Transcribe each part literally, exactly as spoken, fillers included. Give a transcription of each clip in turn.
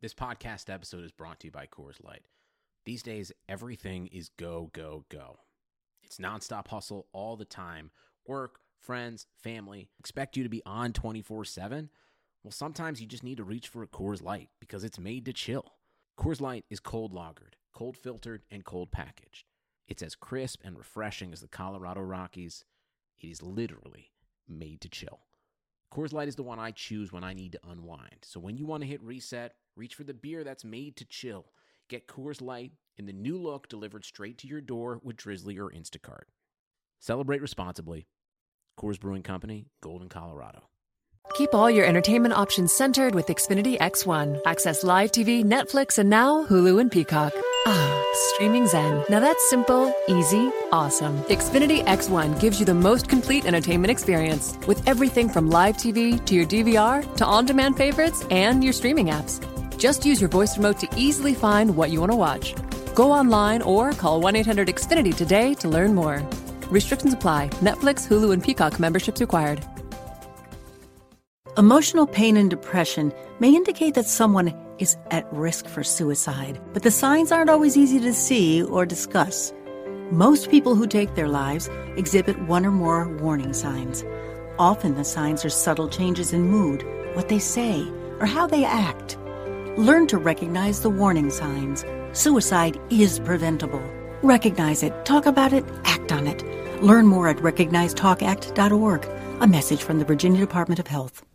This podcast episode is brought to you by Coors Light. These days, everything is go, go, go. It's nonstop hustle all the time. Work, friends, family, expect you to be on twenty-four seven. Well, sometimes you just need to reach for a Coors Light because it's made to chill. Coors Light is cold lagered, cold filtered, and cold packaged. It's as crisp and refreshing as the Colorado Rockies. It is literally made to chill. Coors Light is the one I choose when I need to unwind. So when you want to hit reset, reach for the beer that's made to chill. Get Coors Light in the new look delivered straight to your door with Drizzly or Instacart. Celebrate responsibly. Coors Brewing Company, Golden, Colorado. Keep all your entertainment options centered with Xfinity X one. Access live T V, Netflix, and now Hulu and Peacock. Ah, streaming zen. Now that's simple, easy, awesome. Xfinity X one gives you the most complete entertainment experience with everything from live T V to your D V R to on-demand favorites and your streaming apps. Just use your voice remote to easily find what you want to watch. Go online or call one eight hundred X Finity today to learn more. Restrictions apply. Netflix, Hulu, and Peacock memberships required. Emotional pain and depression may indicate that someone is at risk for suicide, but the signs aren't always easy to see or discuss. Most people who take their lives exhibit one or more warning signs. Often the signs are subtle changes in mood, what they say, or how they act. Learn to recognize the warning signs. Suicide is preventable. Recognize it, talk about it, act on it. Learn more at recognize talk act dot org. A message from the Virginia Department of Health.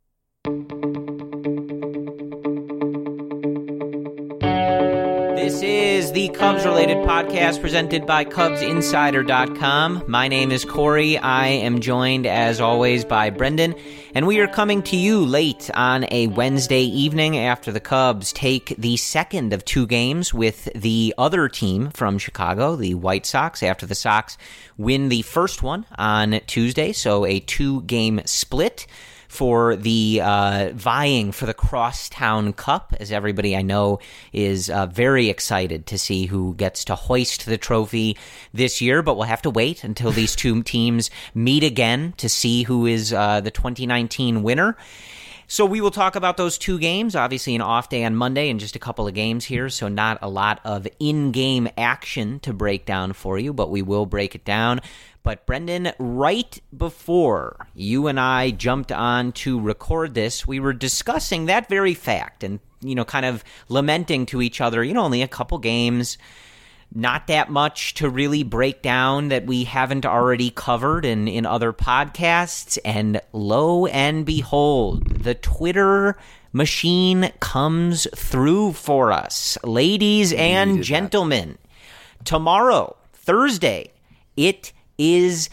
This is the Cubs-related podcast presented by Cubs Insider dot com. My name is Corey. I am joined, as always, by Brendan, and we are coming to you late on a Wednesday evening after the Cubs take the second of two games with the other team from Chicago, the White Sox, after the Sox win the first one on Tuesday, so a two-game split for the uh, vying for the Crosstown Cup, as everybody I know is uh, very excited to see who gets to hoist the trophy this year. But we'll have to wait until these two teams meet again to see who is uh, the twenty nineteen winner. So we will talk about those two games, obviously an off day on Monday and just a couple of games here, so not a lot of in-game action to break down for you, but we will break it down. But Brendan, right before you and I jumped on to record this, we were discussing that very fact and, you know, kind of lamenting to each other, you know, only a couple games, not that much to really break down that we haven't already covered in, in other podcasts. And lo and behold, the Twitter machine comes through for us. Ladies and gentlemen, that. Tomorrow, Thursday, it is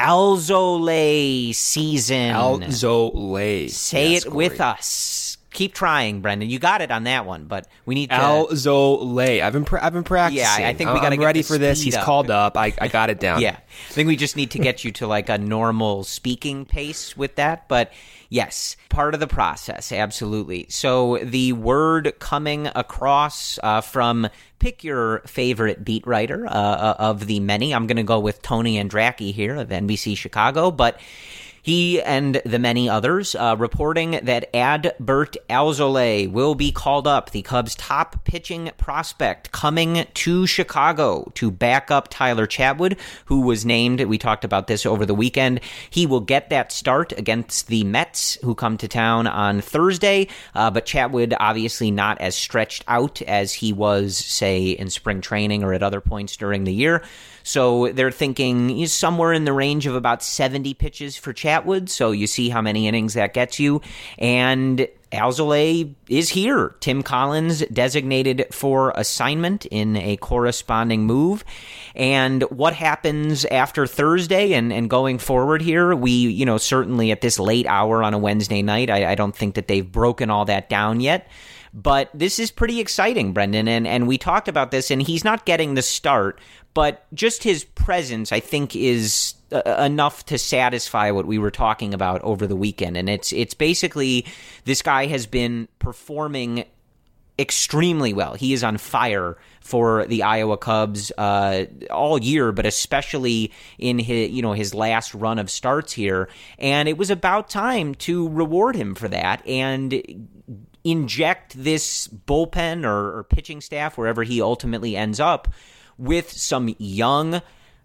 Alzolay season. Alzolay. Say yes, it Corey. with us. Keep trying, Brendan. You got it on that one, but we need to... Alzolay. I've been pra- I've been practicing. Yeah, I think we got to I'm get ready the for this. speed He's up. called up. I, I got it down. Yeah. I think we just need to get you to like a normal speaking pace with that, but yes, part of the process, absolutely. So the word coming across uh, from, pick your favorite beat writer uh, of the many. I'm going to go with Tony Andracki here of N B C Chicago, but he and the many others uh, reporting that Adbert Alzolay will be called up, the Cubs' top pitching prospect, coming to Chicago to back up Tyler Chatwood, who was named, we talked about this over the weekend. He will get that start against the Mets, who come to town on Thursday, uh, but Chatwood obviously not as stretched out as he was, say, in spring training or at other points during the year. So they're thinking he's somewhere in the range of about seventy pitches for Chatwood. So you see how many innings that gets you. And Alzolay is here. Tim Collins designated for assignment in a corresponding move. And what happens after Thursday and, and going forward here, we, you know, certainly at this late hour on a Wednesday night, I, I don't think that they've broken all that down yet. But this is pretty exciting, Brendan, and, and we talked about this, and he's not getting the start, but just his presence, I think, is uh, enough to satisfy what we were talking about over the weekend. And it's it's basically this guy has been performing extremely well. He is on fire for the Iowa Cubs uh, all year, but especially in his, you know, his last run of starts here. And it was about time to reward him for that and inject this bullpen or, or pitching staff, wherever he ultimately ends up, with some young,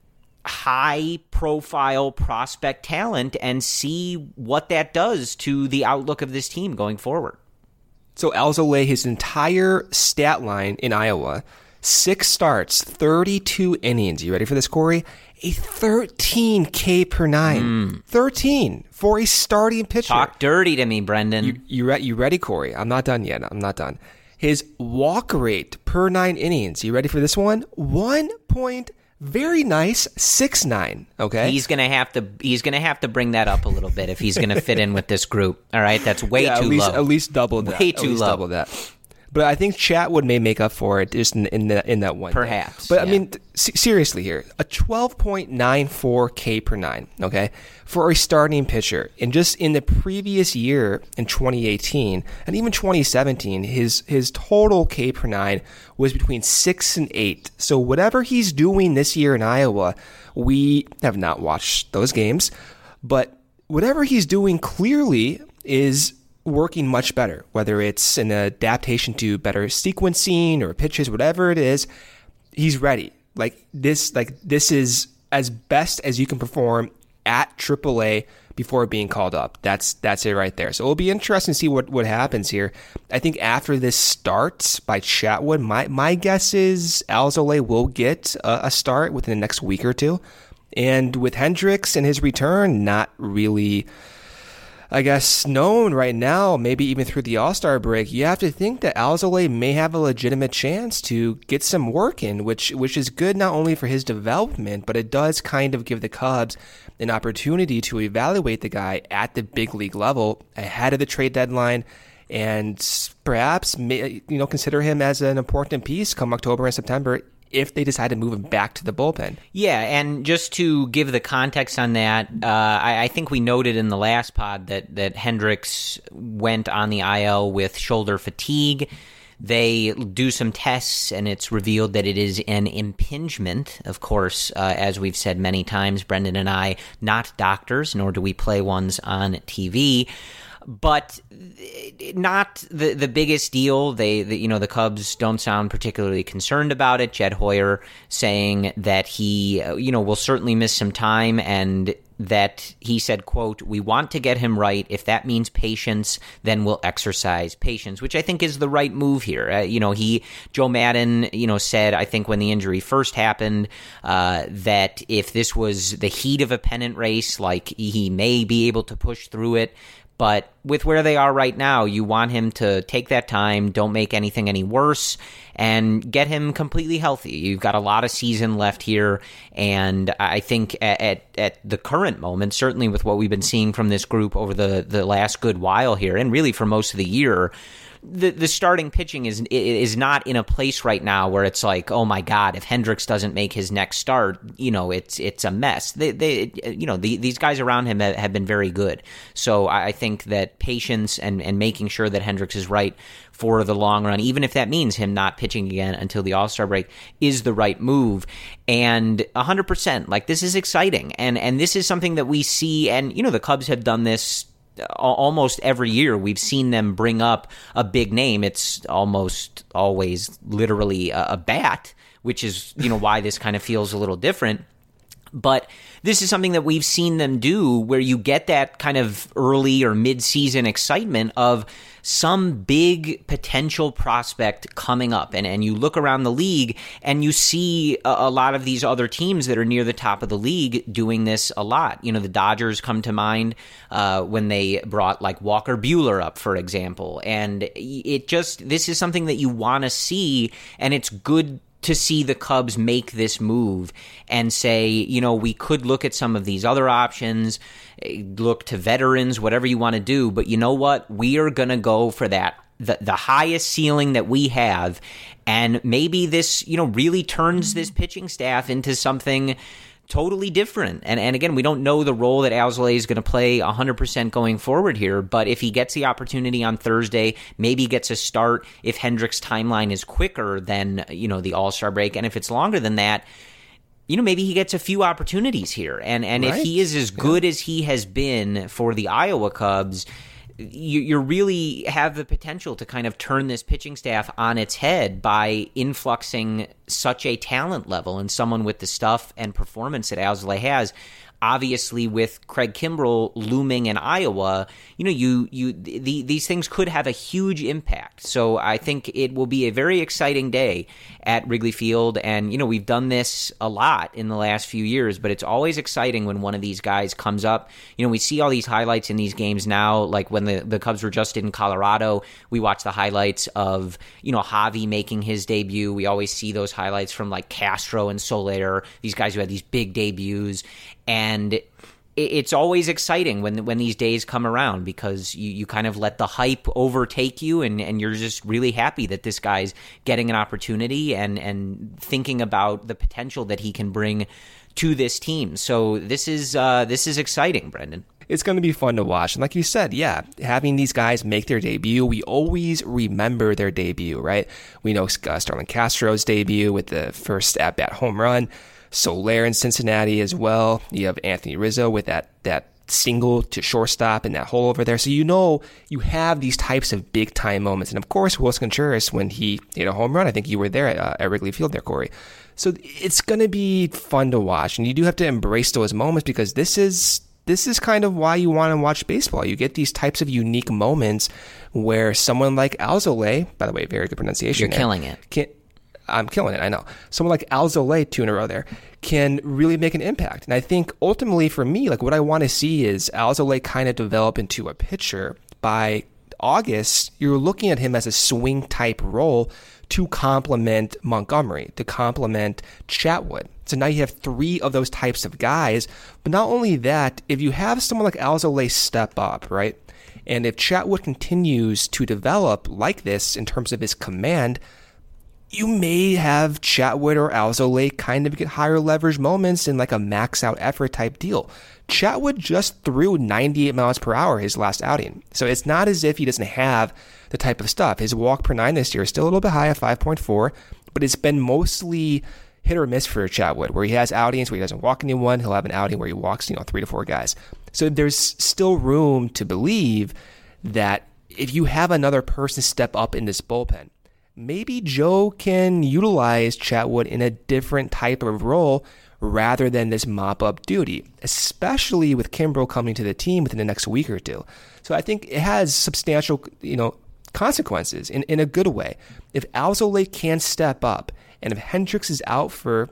high-profile prospect talent and see what that does to the outlook of this team going forward. So Alzolay, his entire stat line in Iowa, six starts, thirty-two innings. You ready for this, Corey? A thirteen K per nine. Mm. thirteen for a starting pitcher. Talk dirty to me, Brendan. You, you, re- you ready, Corey? I'm not done yet. I'm not done. His walk rate per nine innings. You ready for this one? One point very nice six nine. Okay, he's gonna have to. He's gonna have to bring that up a little bit if he's gonna fit in with this group. All right, that's way yeah, too at least, low. At least double that. Way too at least low. Double that. But I think Chatwood may make up for it just in, in that in that one. Perhaps. Day. But yeah. I mean, th- seriously here, a twelve point nine four K per nine, okay, for a starting pitcher. And just in the previous year, in twenty eighteen and even twenty seventeen, his his total K per nine was between six and eight. So whatever he's doing this year in Iowa, we have not watched those games, but whatever he's doing clearly is working much better, whether it's an adaptation to better sequencing or pitches, whatever it is, he's ready. Like this, like this is as best as you can perform at triple A before being called up. That's that's it right there. So it'll be interesting to see what, what happens here. I think after this starts by Chatwood, my my guess is Alzolay will get a, a start within the next week or two. And with Hendricks and his return, not really, I guess, known right now, maybe even through the All-Star break, you have to think that Alzolay may have a legitimate chance to get some work in, which which is good not only for his development, but it does kind of give the Cubs an opportunity to evaluate the guy at the big league level ahead of the trade deadline and perhaps, you know, consider him as an important piece come October and September if they decide to move him back to the bullpen. Yeah, and just to give the context on that, uh, I, I think we noted in the last pod that, that Hendricks went on the I L with shoulder fatigue. They do some tests, and it's revealed that it is an impingement. Of course, uh, as we've said many times, Brendan and I, not doctors, nor do we play ones on T V. But not the the biggest deal. They, the, you know, the Cubs don't sound particularly concerned about it. Jed Hoyer saying that he, you know, will certainly miss some time, and that he said, quote, "We want to get him right. If that means patience, then we'll exercise patience," which I think is the right move here. Uh, you know, he, Joe Maddon, you know, said, I think when the injury first happened, uh, that if this was the heat of a pennant race, like he may be able to push through it. But with where they are right now, you want him to take that time, don't make anything any worse, and get him completely healthy. You've got a lot of season left here, and I think at, at, at the current moment, certainly with what we've been seeing from this group over the, the last good while here, and really for most of the year, the the starting pitching is is not in a place right now where it's like, oh my God, if Hendricks doesn't make his next start, you know, it's it's a mess. They they you know the, these guys around him have been very good. So I think that patience and and making sure that Hendricks is right for the long run, even if that means him not pitching again until the All-Star break, is the right move. And one hundred percent, like, this is exciting, and and this is something that we see, and you know, the Cubs have done this almost every year. We've seen them bring up a big name. It's almost always literally a, a bat, which is, you know, why this kind of feels a little different. But this is something that we've seen them do where you get that kind of early or mid-season excitement of some big potential prospect coming up. And, and you look around the league and you see a, a lot of these other teams that are near the top of the league doing this a lot. You know, the Dodgers come to mind uh, when they brought like Walker Buehler up, for example. And it just, this is something that you want to see, and it's good to see the Cubs make this move and say, you know, we could look at some of these other options, look to veterans, whatever you want to do, but you know what? We are going to go for that, the, the highest ceiling that we have, and maybe this, you know, really turns this pitching staff into something totally different. And and again, we don't know the role that Alzolay is going to play one hundred percent going forward here, but if he gets the opportunity on Thursday, maybe gets a start if Hendricks' timeline is quicker than, you know, the All-Star break, and if it's longer than that, you know, maybe he gets a few opportunities here. And and right. if he is as good yeah. as he has been for the Iowa Cubs, you, you really have the potential to kind of turn this pitching staff on its head by influxing such a talent level and someone with the stuff and performance that Alzolay has. Obviously, with Craig Kimbrell looming in Iowa, you know, you you the, these things could have a huge impact. So I think it will be a very exciting day at Wrigley Field. And, you know, we've done this a lot in the last few years, but it's always exciting when one of these guys comes up. You know, we see all these highlights in these games now, like when the, the Cubs were just in Colorado, we watch the highlights of, you know, Javi making his debut. We always see those highlights from like Castro and Soler, these guys who had these big debuts. And it's always exciting when when these days come around because you, you kind of let the hype overtake you and, and you're just really happy that this guy's getting an opportunity and, and thinking about the potential that he can bring to this team. So this is uh, this is exciting, Brendan. It's going to be fun to watch. And like you said, yeah, having these guys make their debut, we always remember their debut, right? We know uh, Starlin Castro's debut with the first at-bat home run. Soler in Cincinnati as well. You have Anthony Rizzo with that that single to shortstop and that hole over there. So you know you have these types of big time moments. And of course, Willson Contreras when he hit a home run. I think you were there at, uh, at Wrigley Field there, Corey. So it's going to be fun to watch. And you do have to embrace those moments because this is this is kind of why you want to watch baseball. You get these types of unique moments where someone like Alzolay, by the way, very good pronunciation. You're there, killing it. Can, I'm killing it, I know. Someone like Alzolay, two in a row there, can really make an impact. And I think ultimately for me, like what I want to see is Alzolay kind of develop into a pitcher. By August, you're looking at him as a swing type role to complement Montgomery, to complement Chatwood. So now you have three of those types of guys. But not only that, if you have someone like Alzolay step up, right? And if Chatwood continues to develop like this in terms of his command, you may have Chatwood or Alzolay kind of get higher leverage moments in like a max out effort type deal. Chatwood just threw ninety-eight miles per hour his last outing. So it's not as if he doesn't have the type of stuff. His walk per nine this year is still a little bit high at five point four, but it's been mostly hit or miss for Chatwood, where he has outings where he doesn't walk anyone. He'll have an outing where he walks, you know, three to four guys. So there's still room to believe that if you have another person step up in this bullpen, maybe Joe can utilize Chatwood in a different type of role rather than this mop-up duty, especially with Kimbrell coming to the team within the next week or two. So I think it has substantial, you know, consequences in, in a good way. If Alzolay can step up and if Hendricks is out for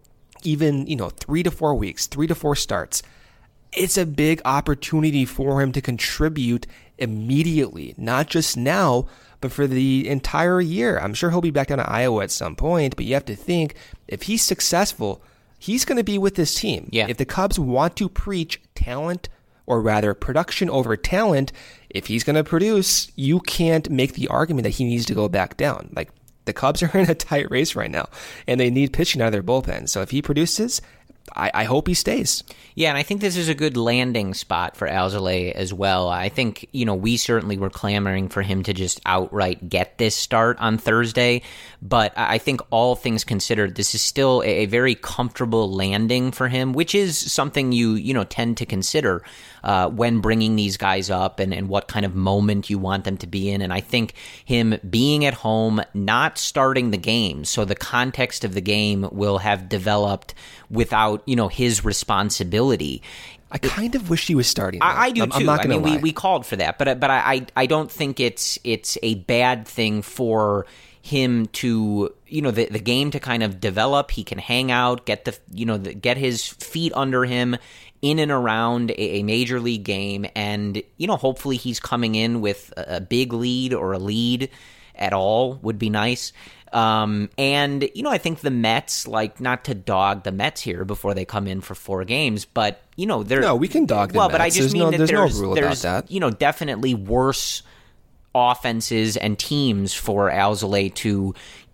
even, you know, three to four weeks, three to four starts, it's a big opportunity for him to contribute immediately, not just now, but for the entire year. I'm sure he'll be back down to Iowa at some point, but you have to think if he's successful, he's going to be with this team. Yeah. If the Cubs want to preach talent, or rather production over talent, if he's going to produce, you can't make the argument that he needs to go back down. Like the Cubs are in a tight race right now, and they need pitching out of their bullpen. So if he produces, I, I hope he stays. Yeah, and I think this is a good landing spot for Alzolay as well. I think, you know, we certainly were clamoring for him to just outright get this start on Thursday, but I think all things considered, this is still a, a very comfortable landing for him, which is something you, you know, tend to consider uh, when bringing these guys up and, and what kind of moment you want them to be in. And I think him being at home, not starting the game, so the context of the game will have developed without, you know, his responsibility. I kind of wish he was starting. I, I do I'm, too. I'm not I mean, lie. we, we called for that, but but I I don't think it's it's a bad thing for him to, you know, the the game to kind of develop. He can hang out, get the you know the, get his feet under him in and around a, a major league game, and you know hopefully he's coming in with a, a big lead or a lead at all would be nice. Um, and, you know, I think the Mets, like, not to dog the Mets here before they come in for four games, but, you know, they're... No, we can dog the well, Mets. But I just there's mean no, that there's, there's, no rule there's about that. you know, definitely worse offenses and teams for Alzolay to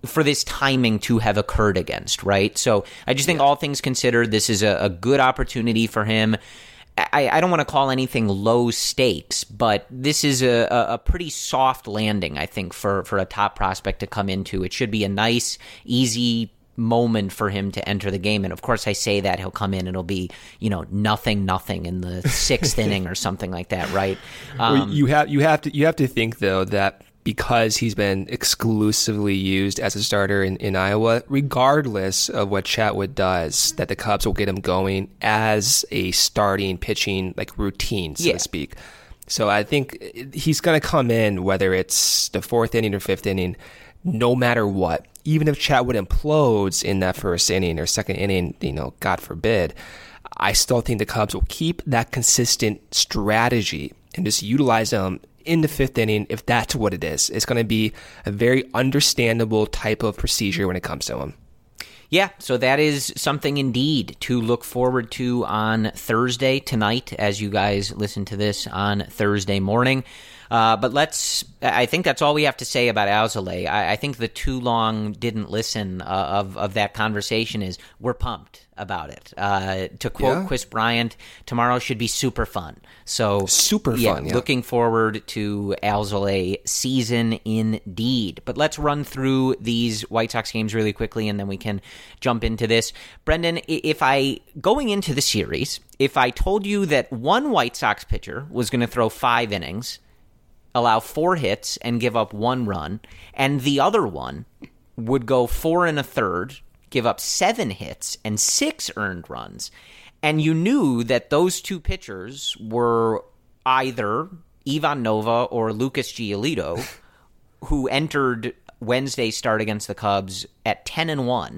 for this timing to have occurred against, right? So I just think yeah. all things considered, this is a, a good opportunity for him. I, I don't want to call anything low stakes, but this is a, a pretty soft landing, I think, for, for a top prospect to come into. It should be a nice, easy moment for him to enter the game. And of course, I say that he'll come in and it'll be, you know, nothing, nothing in the sixth inning or something like that, right? Um, well, you have you have to you have to think though that because he's been exclusively used as a starter in, in Iowa, regardless of what Chatwood does, that the Cubs will get him going as a starting pitching like routine, so yeah. to speak. So I think he's going to come in, whether it's the fourth inning or fifth inning, no matter what. Even if Chatwood implodes in that first inning or second inning, you know, God forbid, I still think the Cubs will keep that consistent strategy and just utilize them in the fifth inning if that's what it is. It's going to be a very understandable type of procedure when it comes to him. Yeah, so that is something indeed to look forward to on Thursday tonight as you guys listen to this on Thursday morning. Uh, but let's, I think that's all we have to say about Alzolay. I, I think the too long didn't listen uh, of, of that conversation is we're pumped about it. Uh, to quote yeah. Chris Bryant, tomorrow should be super fun. So super yeah, fun, yeah. Looking forward to Alzolay season indeed. But let's run through these White Sox games really quickly and then we can jump into this. Brendan, if I, going into the series, if I told you that one White Sox pitcher was going to throw five innings, allow four hits and give up one run, and the other one would go four and a third, give up seven hits and six earned runs, and you knew that those two pitchers were either Ivan Nova or Lucas Giolito, who entered Wednesday's start against the Cubs at ten and one,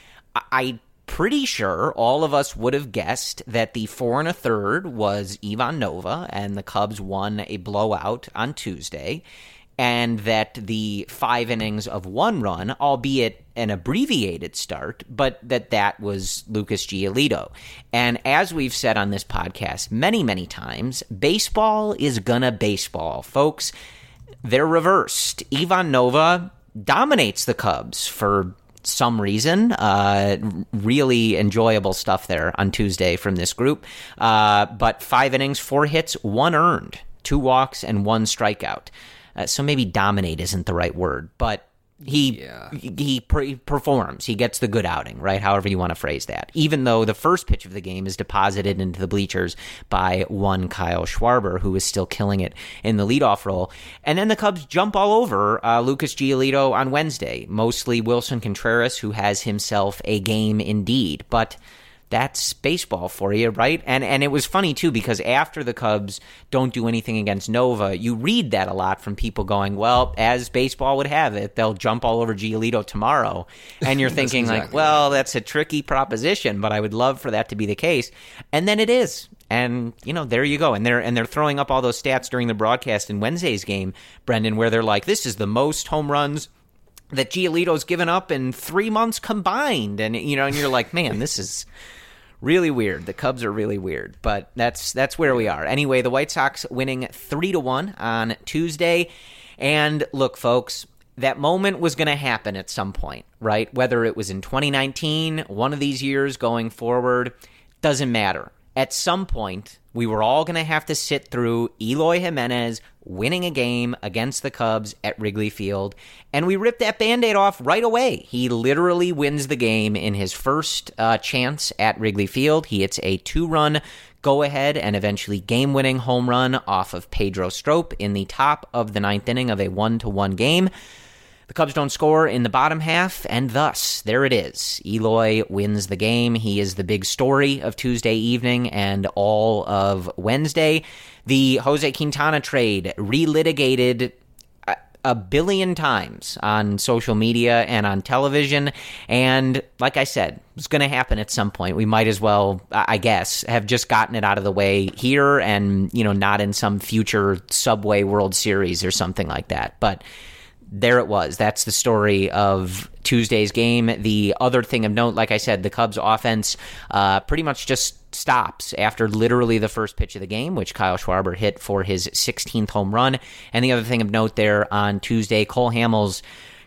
I pretty sure all of us would have guessed that the four and a third was Ivan Nova and the Cubs won a blowout on Tuesday, and that the five innings of one run, albeit an abbreviated start, but that that was Lucas Giolito. And as we've said on this podcast many, many times, baseball is gonna baseball, folks. They're reversed. Ivan Nova dominates the Cubs for some reason. Uh, really enjoyable stuff there on Tuesday from this group. Uh, but five innings, four hits, one earned, two walks, and one strikeout. Uh, so maybe dominate isn't the right word, but he yeah. he, he pre- performs. He gets the good outing, right? However you want to phrase that. Even though the first pitch of the game is deposited into the bleachers by one Kyle Schwarber, who is still killing it in the leadoff role. And then the Cubs jump all over uh, Lucas Giolito on Wednesday, mostly Wilson Contreras, who has himself a game indeed. But that's baseball for you, right? And and it was funny, too, because after the Cubs don't do anything against Nova, you read that a lot from people going, well, as baseball would have it, they'll jump all over Giolito tomorrow. And you're thinking, exactly like, well, that's a tricky proposition, but I would love for that to be the case. And then it is. And, you know, there you go. And they're and they're throwing up all those stats during the broadcast in Wednesday's game, Brendan, where they're like, this is the most home runs that Giolito's given up in three months combined. And, you know, and you're like, man, this is really weird. The Cubs are really weird, but that's that's where we are. Anyway, the White Sox winning three to one on Tuesday. And look, folks, that moment was going to happen at some point, right? Whether it was in twenty nineteen, one of these years going forward, doesn't matter. At some point, we were all going to have to sit through Eloy Jimenez winning a game against the Cubs at Wrigley Field, and we ripped that Band-Aid off right away. He literally wins the game in his first uh, chance at Wrigley Field. He hits a two-run go-ahead and eventually game-winning home run off of Pedro Strop in the top of the ninth inning of a one to one game. The Cubs don't score in the bottom half, and thus, there it is. Eloy wins the game. He is the big story of Tuesday evening and all of Wednesday. The Jose Quintana trade relitigated a, a billion times on social media and on television, and like I said, it's going to happen at some point. We might as well, I guess, have just gotten it out of the way here and, you know, not in some future Subway World Series or something like that, but there it was. That's the story of Tuesday's game. The other thing of note, like I said, the Cubs offense uh, pretty much just stops after literally the first pitch of the game, which Kyle Schwarber hit for his sixteenth home run. And the other thing of note there on Tuesday, Cole Hamels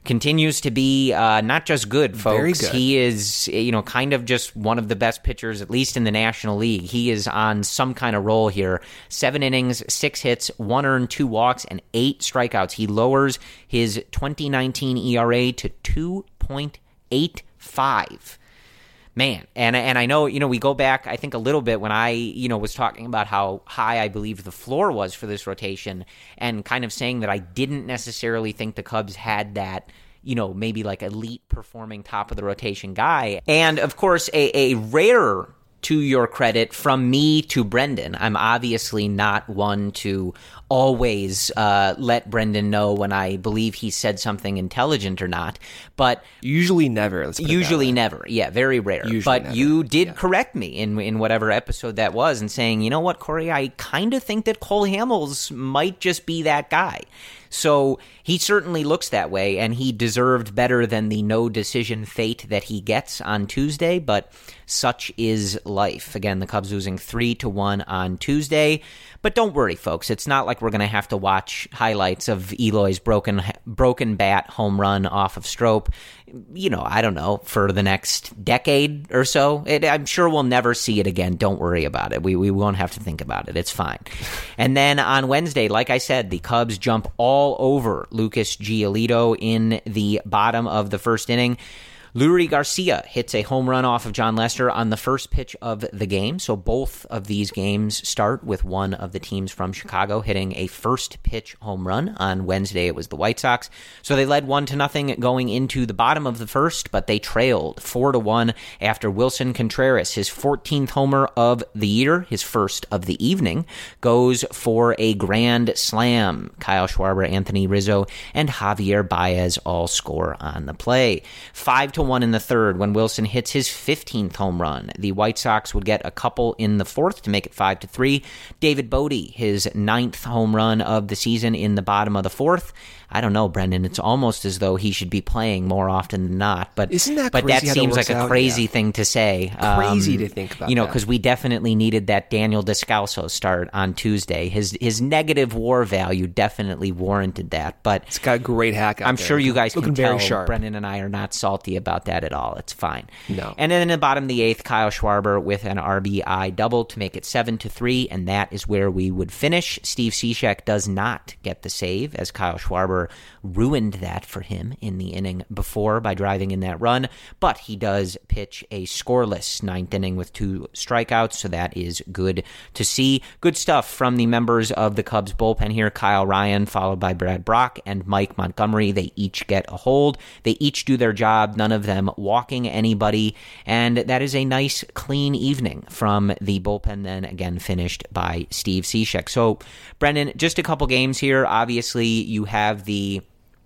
continues to be uh, not just good, folks. Very good. He is, you know, kind of just one of the best pitchers, at least in the National League. He is on some kind of roll here. Seven innings, six hits, one earned, two walks, and eight strikeouts. He lowers his twenty nineteen E R A to two point eight five. Man, and and I know, you know, we go back, I think, a little bit when I, you know, was talking about how high I believe the floor was for this rotation and kind of saying that I didn't necessarily think the Cubs had that, you know, maybe like elite performing top of the rotation guy. And, of course, a, a rare, to your credit, from me to Brendan. I'm obviously not one to always uh, let Brendan know when I believe he said something intelligent or not, but usually never. Let's put it usually that way. never. Yeah, very rare. Usually but never. you did Yeah. correct me in in whatever episode that was, and saying, you know what, Corey, I kind of think that Cole Hamels might just be that guy. So he certainly looks that way, and he deserved better than the no decision fate that he gets on Tuesday, but such is life. Again, the Cubs losing three to one on Tuesday. But don't worry, folks. It's not like we're going to have to watch highlights of Eloy's broken broken bat home run off of Strop, you know, I don't know, for the next decade or so. It, I'm sure we'll never see it again. Don't worry about it. We we won't have to think about it. It's fine. And then on Wednesday, like I said, the Cubs jump all over Lucas Giolito in the bottom of the first inning. Leury Garcia hits a home run off of John Lester on the first pitch of the game. So both of these games start with one of the teams from Chicago hitting a first pitch home run. On Wednesday, it was the White Sox. So they led one to nothing going into the bottom of the first, but they trailed four to one after Wilson Contreras, his fourteenth homer of the year, his first of the evening, goes for a grand slam. Kyle Schwarber, Anthony Rizzo, and Javier Baez all score on the play. Five to one in the third when Wilson hits his fifteenth home run. The White Sox would get a couple in the fourth to make it five to three. David Bodie, his ninth home run of the season in the bottom of the fourth. I don't know, Brendan. It's almost as though he should be playing more often than not. But Isn't that but crazy that how that seems works like a out? crazy Yeah. thing to say. Crazy Um, to think about You know, that. because we definitely needed that Daniel Descalso start on Tuesday. His his negative WAR value definitely warranted that. But It's got a great hack out I'm there. sure you guys Looking can tell very sharp. Brendan and I are not salty about that at all. It's fine. No. And then in the bottom of the eighth, Kyle Schwarber with an R B I double to make it seven to three, and that is where we would finish. Steve Cishek does not get the save, as Kyle Schwarber ruined that for him in the inning before by driving in that run, but he does pitch a scoreless ninth inning with two strikeouts, so that is good to see. Good stuff from the members of the Cubs bullpen here. Kyle Ryan, followed by Brad Brock and Mike Montgomery. They each get a hold. They each do their job, none of them walking anybody, and that is a nice, clean evening from the bullpen, then again finished by Steve Cishek. So, Brendan, just a couple games here. Obviously, you have the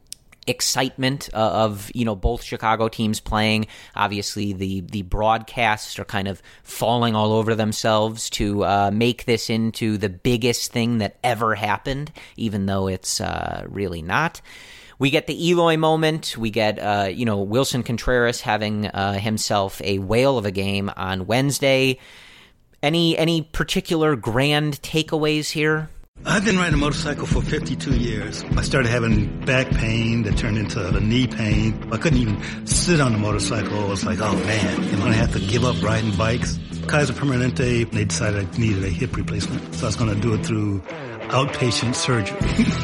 excitement uh, of, you know, both Chicago teams playing. Obviously, the the broadcasts are kind of falling all over themselves to uh, make this into the biggest thing that ever happened, even though it's uh, really not. We get the Eloy moment. We get, uh, you know, Wilson Contreras having uh, himself a whale of a game on Wednesday. Any any particular grand takeaways here? I've been riding a motorcycle for fifty-two years. I started having back pain that turned into the knee pain. I couldn't even sit on the motorcycle. I was like, oh man, am I going to have to give up riding bikes? Kaiser Permanente, they decided I needed a hip replacement. So I was going to do it through outpatient surgery.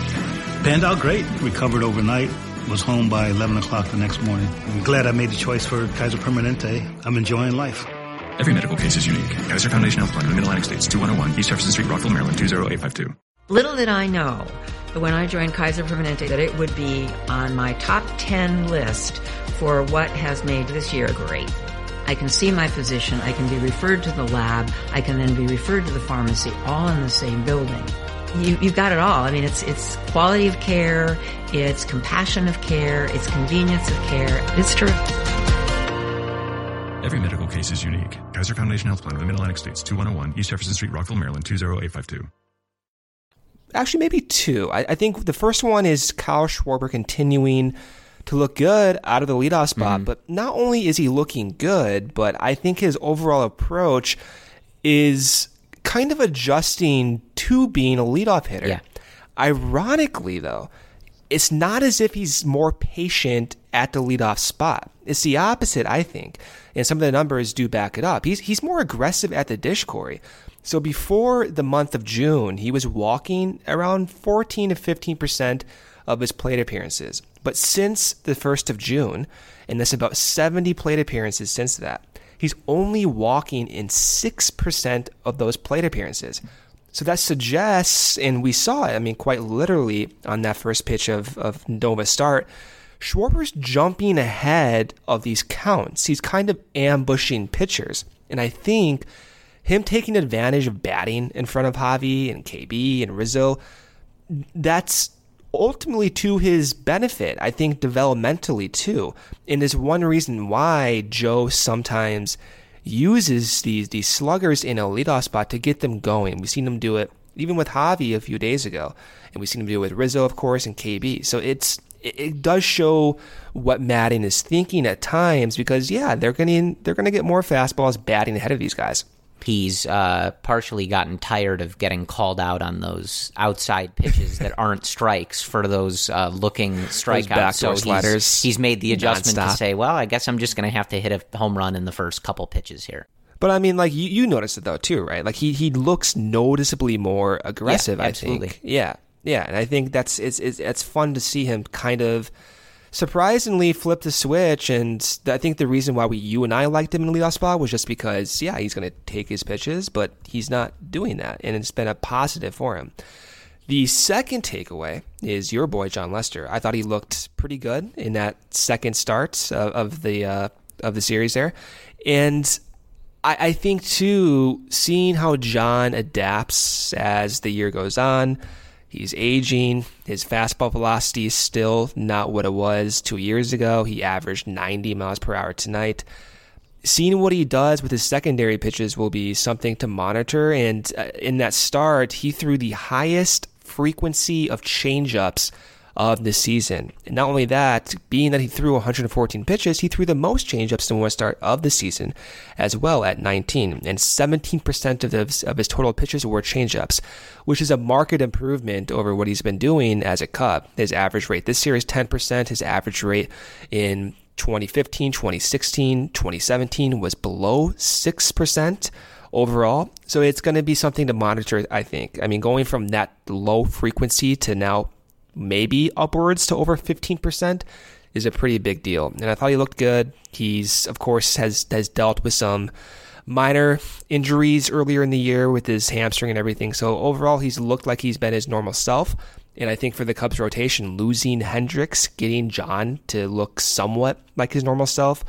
Panned out great. Recovered overnight. Was home by eleven o'clock the next morning. I'm glad I made the choice for Kaiser Permanente. I'm enjoying life. Every medical case is unique. Kaiser Foundation Health Plan in the Mid-Atlantic States, two one zero one East Jefferson Street, Rockville, Maryland, two zero eight five two. Little did I know that when I joined Kaiser Permanente that it would be on my top ten list for what has made this year great. I can see my physician, I can be referred to the lab, I can then be referred to the pharmacy, all in the same building. You, you've got it all. I mean, it's it's quality of care, it's compassion of care, it's convenience of care. It's terrific. Every medical case is unique. Kaiser Foundation Health Plan in the Mid-Atlantic States, two one zero one East Jefferson Street, Rockville, Maryland, two zero eight five two. Actually, maybe two. I, I think the first one is Kyle Schwarber continuing to look good out of the leadoff spot. Mm-hmm. But not only is he looking good, but I think his overall approach is kind of adjusting to being a leadoff hitter. Yeah. Ironically, though, it's not as if he's more patient at the leadoff spot. It's the opposite, I think. And some of the numbers do back it up. He's he's more aggressive at the dish, Corey. So before the month of June, he was walking around fourteen to fifteen percent of his plate appearances. But since the first of June, and that's about seventy plate appearances since that, he's only walking in six percent of those plate appearances. So that suggests, and we saw it, I mean, quite literally on that first pitch of, of Nova's start, Schwarber's jumping ahead of these counts. He's kind of ambushing pitchers. And I think him taking advantage of batting in front of Javi and K B and Rizzo, that's ultimately to his benefit, I think developmentally too. And is one reason why Joe sometimes uses these these sluggers in a leadoff spot to get them going. We've seen him do it even with Javi a few days ago, and we've seen him do it with Rizzo, of course, and K B. So it's it, it does show what Maddon is thinking at times, because yeah, they're going to they're going to get more fastballs batting ahead of these guys. He's uh, partially gotten tired of getting called out on those outside pitches that aren't strikes for those uh, looking strikeouts. So he's, he's made the adjustment nonstop. To say, well, I guess I'm just going to have to hit a home run in the first couple pitches here. But I mean, like you, you noticed it though too, right? Like he he looks noticeably more aggressive. Yeah, I absolutely. think. Yeah, yeah, and I think that's it's it's it's fun to see him kind of surprisingly flip the switch, and I think the reason why we, you and I liked him in the leadoff spot was just because, yeah, he's going to take his pitches, but he's not doing that, and it's been a positive for him. The second takeaway is your boy Jon Lester. I thought he looked pretty good in that second start of, of the uh, of the series there, and I, I think too, seeing how Jon adapts as the year goes on. He's aging. His fastball velocity is still not what it was two years ago. He averaged ninety miles per hour tonight. Seeing what he does with his secondary pitches will be something to monitor. And uh, in that start, he threw the highest frequency of changeups of the season. And not only that, being that he threw one hundred fourteen pitches, he threw the most changeups in one start of the season as well at nineteen. And seventeen percent of, the, of his total pitches were changeups, which is a marked improvement over what he's been doing as a Cub. His average rate this year is ten percent. His average rate in twenty fifteen, twenty sixteen, twenty seventeen was below six percent overall. So it's going to be something to monitor, I think. I mean, going from that low frequency to now maybe upwards to over fifteen percent is a pretty big deal. And I thought he looked good. He's, of course, has, has dealt with some minor injuries earlier in the year with his hamstring and everything. So overall, he's looked like he's been his normal self. And I think for the Cubs rotation, losing Hendricks, getting Jon to look somewhat like his normal self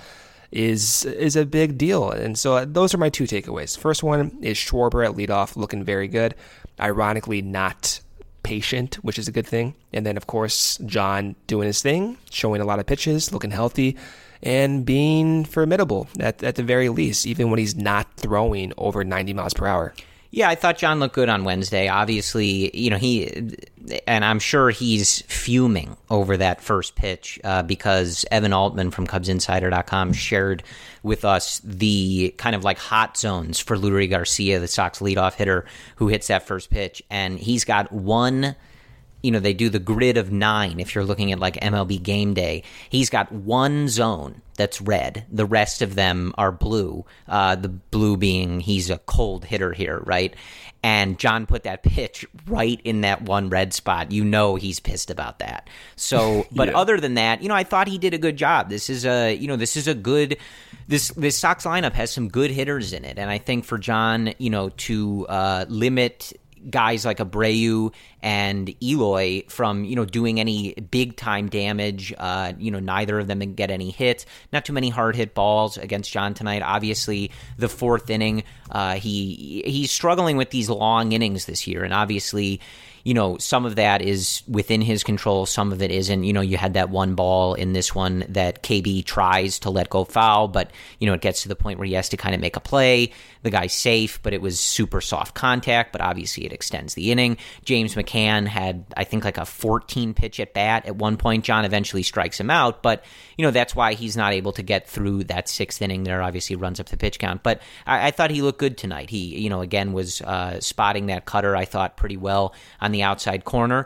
is is a big deal. And so those are my two takeaways. First one is Schwarber at leadoff looking very good. Ironically, not patient, which is a good thing. And then, of course, Jon doing his thing, showing a lot of pitches, looking healthy, and being formidable at, at the very least, even when he's not throwing over ninety miles per hour. Yeah, I thought Jon looked good on Wednesday. Obviously, you know, he, and I'm sure he's fuming over that first pitch uh, because Evan Altman from Cubs Insider dot com shared with us the kind of like hot zones for Leury Garcia, the Sox leadoff hitter who hits that first pitch. And he's got one, you know, they do the grid of nine if you're looking at like M L B Game Day. He's got one zone that's red. The rest of them are blue. Uh, the blue being he's a cold hitter here, right? And Jon put that pitch right in that one red spot. You know he's pissed about that. So, but yeah. Other than that, you know, I thought he did a good job. This is a, you know, this is a good, this this Sox lineup has some good hitters in it. And I think for Jon, you know, to uh, limit guys like Abreu and Eloy from, you know, doing any big time damage. Uh, you know, neither of them get any hits. Not too many hard hit balls against Jon tonight. Obviously, the fourth inning, uh, he he's struggling with these long innings this year, and obviously, you know, some of that is within his control, some of it isn't. You know, you had that one ball in this one that K B tries to let go foul, but, you know, it gets to the point where he has to kind of make a play. The guy's safe, but it was super soft contact, but obviously it extends the inning. James McCann had, I think, like a fourteen pitch at bat at one point. Jon eventually strikes him out, but, you know, that's why he's not able to get through that sixth inning there. Obviously runs up the pitch count, but I, I thought he looked good tonight. He, you know, again, was uh, spotting that cutter, I thought, pretty well on the outside corner.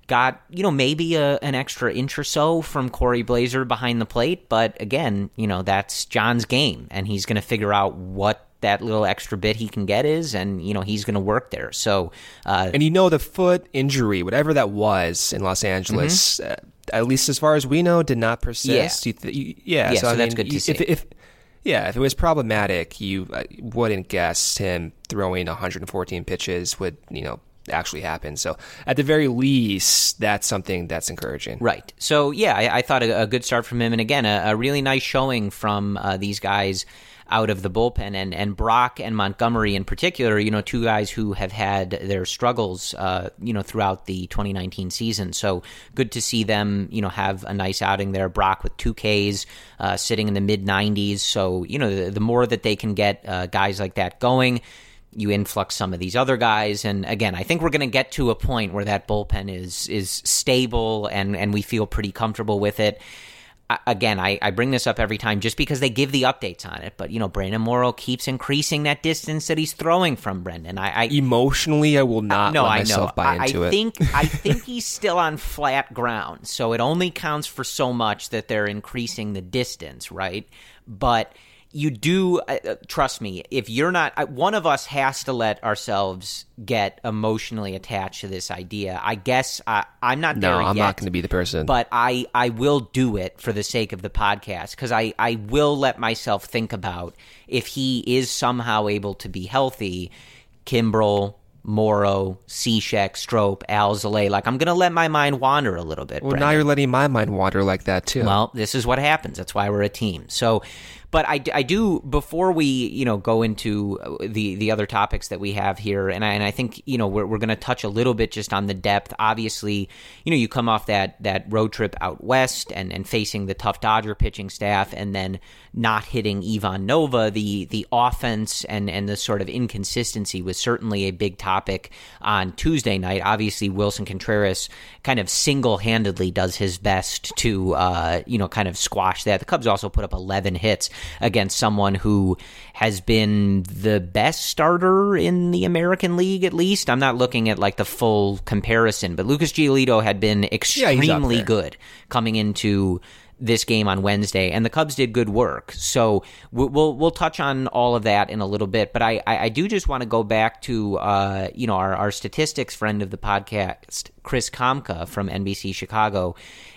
got, you know, maybe a, an extra inch or so from Corey Blaser behind the plate. But again, you know, that's John's game, and he's going to figure out what that little extra bit he can get is, and, you know, he's going to work there. So, uh, and you know, the foot injury, whatever that was in Los Angeles, mm-hmm. uh, at least as far as we know, did not persist. Yeah, you th- you, yeah, yeah. So, So, I that's mean, good to if, see. If, if yeah, if it was problematic, you uh, wouldn't guess him throwing one hundred fourteen pitches would, you know, actually happen. So at the very least, that's something that's encouraging. Right. So yeah, I, I thought a, a good start from him, and again, a, a really nice showing from uh, these guys out of the bullpen, and, and Brock and Montgomery in particular, you know, two guys who have had their struggles, uh, you know, throughout the twenty nineteen season. So good to see them, you know, have a nice outing there. Brock with two Ks, uh, sitting in the mid nineties. So, you know, the, the more that they can get uh, guys like that going, you influx some of these other guys. And again, I think we're going to get to a point where that bullpen is is stable and, and we feel pretty comfortable with it. Again, I, I bring this up every time just because they give the updates on it. But, you know, Brandon Morrow keeps increasing that distance that he's throwing from Brendan. I, I Emotionally, I will not no, let I myself know. buy I, into I it. Think, I think he's still on flat ground. So it only counts for so much that they're increasing the distance, right? But you do, uh, trust me, if you're not, uh, one of us has to let ourselves get emotionally attached to this idea. I guess uh, I'm not there no, yet. I'm not going to be the person. But I, I will do it for the sake of the podcast, because I, I will let myself think about if he is somehow able to be healthy, Kimbrel, Morrow, Cishek, Strop, Alzolay. Like, I'm going to let my mind wander a little bit. Well, Brendan. now you're letting my mind wander like that, too. Well, this is what happens. That's why we're a team. So, but I, I do, before we, you know, go into the, the other topics that we have here, and I, and I think, you know, we're, we're going to touch a little bit just on the depth. Obviously, you know, you come off that, that road trip out west and, and facing the tough Dodger pitching staff, and then not hitting Ivan Nova. The, the offense and, and the sort of inconsistency was certainly a big topic on Tuesday night. Obviously, Wilson Contreras kind of single-handedly does his best to, uh, you know, kind of squash that. The Cubs also put up eleven hits against someone who has been the best starter in the American League, at least. I'm not looking at like the full comparison, but Lucas Giolito had been extremely yeah, good coming into this game on Wednesday, and the Cubs did good work. So we'll we'll, we'll touch on all of that in a little bit, but I, I, I do just want to go back to uh, you know our, our statistics friend of the podcast, Chris Kamka from N B C Chicago.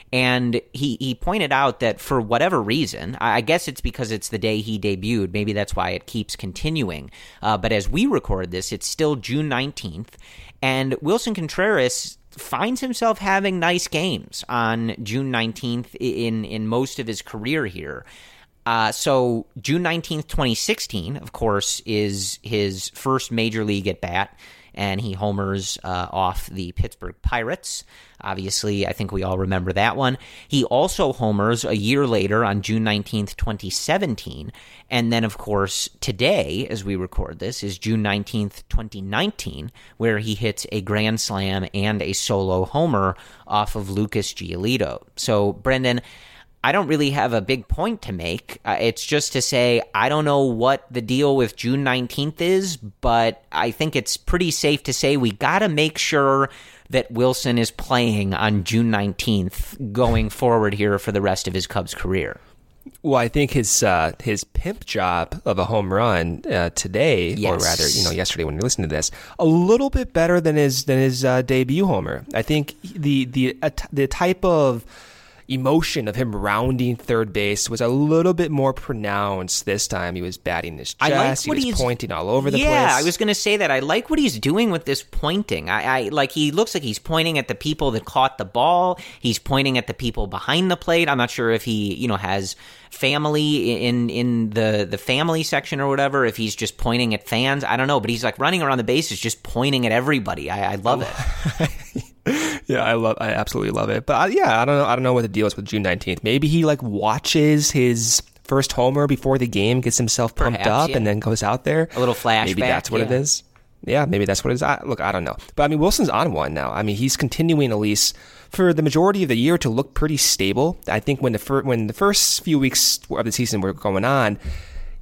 And he, he pointed out that for whatever reason, I guess it's because it's the day he debuted, maybe that's why it keeps continuing. Uh, but as we record this, it's still June nineteenth, and Wilson Contreras finds himself having nice games on June nineteenth in, in most of his career here. Uh, so June nineteenth, twenty sixteen, of course, is his first major league at bat, and he homers uh, off the Pittsburgh Pirates. Obviously, I think we all remember that one. He also homers a year later on June nineteenth, twenty seventeen. And then, of course, today, as we record this, is June nineteenth, twenty nineteen, where he hits a grand slam and a solo homer off of Lucas Giolito. So, Brendan, I don't really have a big point to make. Uh, it's just to say I don't know what the deal with June nineteenth is, but I think it's pretty safe to say we got to make sure that Wilson is playing on June nineteenth going forward here for the rest of his Cubs career. Well, I think his uh, his pimp job of a home run uh, today, Yes. or rather, you know, yesterday when you listened to this, a little bit better than his than his uh, debut homer. I think the the uh, the type of emotion of him rounding third base was a little bit more pronounced this time. He was batting his chest. I like what he was he's pointing all over the yeah, place. Yeah, I was going to say that. I like what he's doing with this pointing. I, I like he looks like he's pointing at the people that caught the ball. He's pointing at the people behind the plate. I'm not sure if he, you know, has family in in the the family section or whatever. If he's just pointing at fans, I don't know. But he's like running around the bases, just pointing at everybody. I, I love it. Yeah, I love. I absolutely love it. But I, yeah, I don't know. I don't know what the deal is with June nineteenth. Maybe he like watches his first homer before the game, gets himself pumped Perhaps, up, yeah. and then goes out there. A little flashback. Maybe that's what yeah. it is. Yeah, maybe that's what it is. I, look, I don't know. But I mean, Wilson's on one now. I mean, he's continuing at least for the majority of the year to look pretty stable. I think when the fir- when the first few weeks of the season were going on,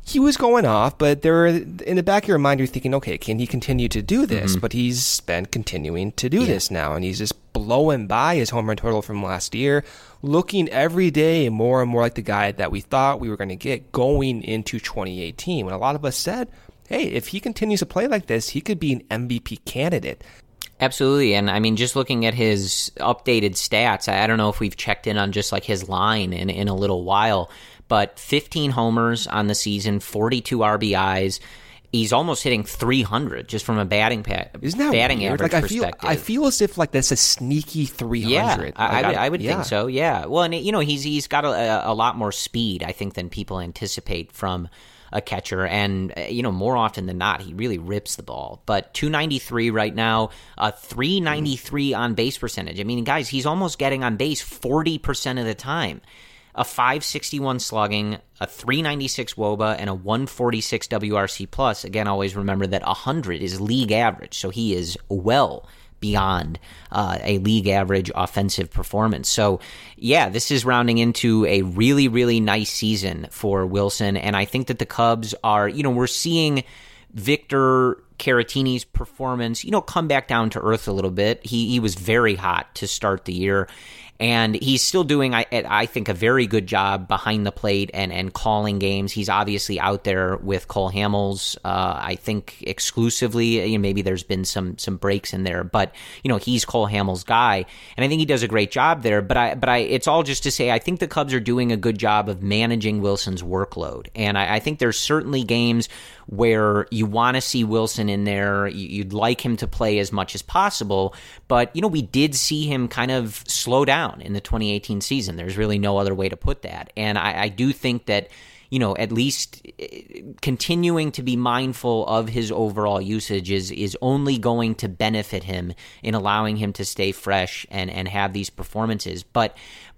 he was going off, but there, in the back of your mind, you're thinking, okay, can he continue to do this? Mm-hmm. But he's been continuing to do yeah. this now, and he's just blowing by his home run total from last year, looking every day more and more like the guy that we thought we were going to get going into twenty eighteen, when a lot of us said, hey, if he continues to play like this, he could be an M V P candidate. Absolutely. And I mean, just looking at his updated stats, I don't know if we've checked in on just like his line in, in a little while, but fifteen homers on the season, forty-two R B Is. He's almost hitting three hundred just from a batting pa- Isn't that batting weird? average like, I perspective. Feel, I feel as if like that's a sneaky three hundred. Yeah, I, like, I would, I would yeah. think so. Yeah. Well, and you know, he's he's got a, a lot more speed, I think, than people anticipate from a catcher, and you know, more often than not, he really rips the ball. But two ninety-three right now, a three ninety-three on base percentage. I mean, guys, he's almost getting on base forty percent of the time. A five sixty-one slugging, a three ninety-six W O B A, and a one forty-six W R C plus. Again, always remember that one hundred is league average, so he is well beyond uh, a league average offensive performance. So, yeah, this is rounding into a really, really nice season for Wilson, and I think that the Cubs are, you know, we're seeing Victor Caratini's performance, you know, come back down to earth a little bit. He he was very hot to start the year, and he's still doing, I, I think, a very good job behind the plate and, and calling games. He's obviously out there with Cole Hamels, uh, I think, exclusively. You know, maybe there's been some some breaks in there, but you know, he's Cole Hamels' guy, and I think he does a great job there. But I, but I, it's all just to say, I think the Cubs are doing a good job of managing Wilson's workload, and I, I think there's certainly games where you want to see Wilson in there. You'd like him to play as much as possible, but you know, we did see him kind of slow down in the twenty eighteen season. There's really no other way to put that. And I, I do think that, you know, at least continuing to be mindful of his overall usage is is only going to benefit him in allowing him to stay fresh and, and have these performances. But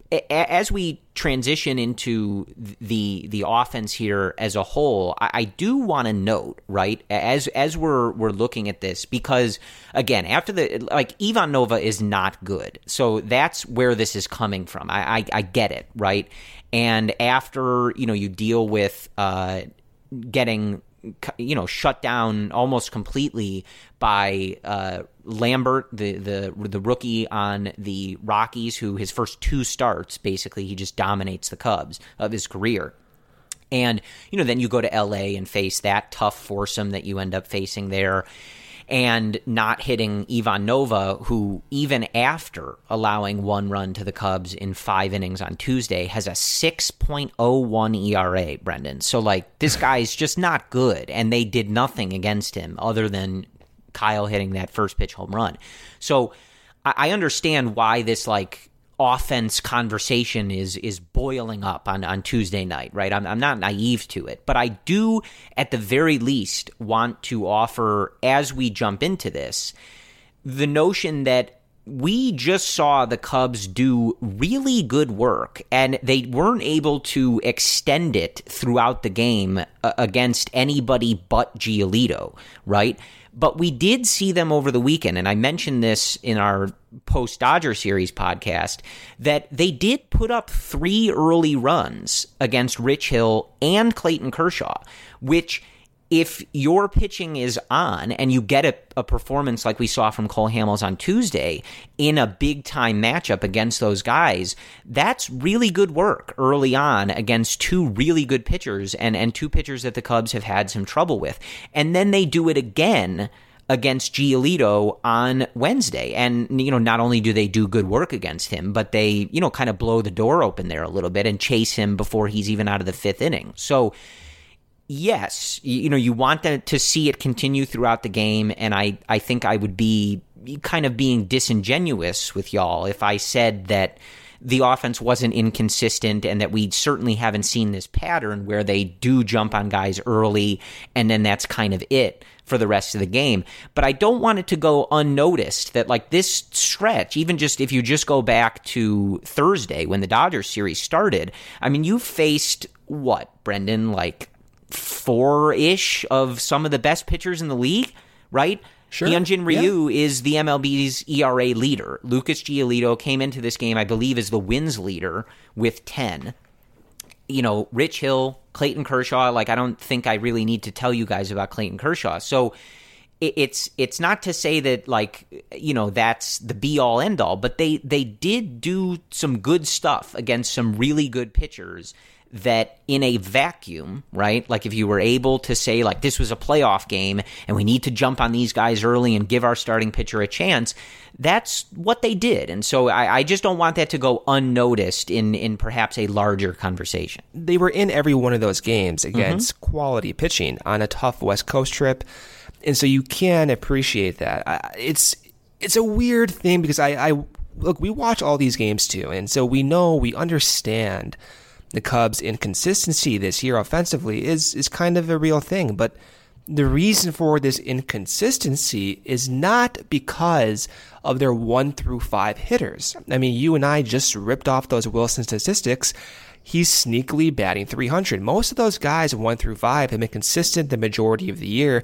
as we transition into the the offense here as a whole, I, I do want to note, right, as as we're we're looking at this, because again, after the like Ivan Nova is not good, so that's where this is coming from. I I, I get it, right, and after you know you deal with uh, getting you know shut down almost completely by uh, Lambert, the the the rookie on the Rockies, who his first two starts, basically, he just dominates the Cubs of his career. And, you know, then you go to L A and face that tough foursome that you end up facing there, and not hitting Ivan Nova, who even after allowing one run to the Cubs in five innings on Tuesday has a six point oh one E R A, Brendan. So, like, this guy's just not good, and they did nothing against him other than Kyle hitting that first pitch home run. So I understand why this like offense conversation is is boiling up on, on Tuesday night, right? I'm, I'm not naive to it, but I do at the very least want to offer, as we jump into this, the notion that we just saw the Cubs do really good work, and they weren't able to extend it throughout the game against anybody but Giolito, right? But we did see them over the weekend, and I mentioned this in our post-Dodger series podcast, that they did put up three early runs against Rich Hill and Clayton Kershaw, which, if your pitching is on and you get a, a performance like we saw from Cole Hamels on Tuesday in a big-time matchup against those guys, that's really good work early on against two really good pitchers and, and two pitchers that the Cubs have had some trouble with. And then they do it again against Giolito on Wednesday. And, you know, not only do they do good work against him, but they, you know, kind of blow the door open there a little bit and chase him before he's even out of the fifth inning. So, yes, you know, you want to, to see it continue throughout the game, and I, I think I would be kind of being disingenuous with y'all if I said that the offense wasn't inconsistent and that we certainly haven't seen this pattern where they do jump on guys early and then that's kind of it for the rest of the game. But I don't want it to go unnoticed that, like, this stretch, even just if you just go back to Thursday when the Dodgers series started, I mean, you faced what, Brendan, like four-ish of some of the best pitchers in the league, right? Sure. Hyunjin Ryu yeah. is the M L B's E R A leader. Lucas Giolito came into this game, I believe, as the wins leader with ten. you know, Rich Hill, Clayton Kershaw, like I don't think I really need to tell you guys about Clayton Kershaw. So it, it's it's not to say that, like, you know, that's the be-all, end-all, but they, they did do some good stuff against some really good pitchers that in a vacuum, right? Like if you were able to say, like, this was a playoff game and we need to jump on these guys early and give our starting pitcher a chance, that's what they did. And so I, I just don't want that to go unnoticed in, in perhaps a larger conversation. They were in every one of those games against mm-hmm. quality pitching on a tough West Coast trip. And so you can appreciate that. I, it's it's a weird thing because I, I look, we watch all these games too. And so we know, we understand the Cubs' inconsistency this year offensively is is kind of a real thing. But the reason for this inconsistency is not because of their one through five hitters. I mean, you and I just ripped off those Wilson statistics. He's sneakily batting three hundred. Most of those guys one through five have been consistent the majority of the year,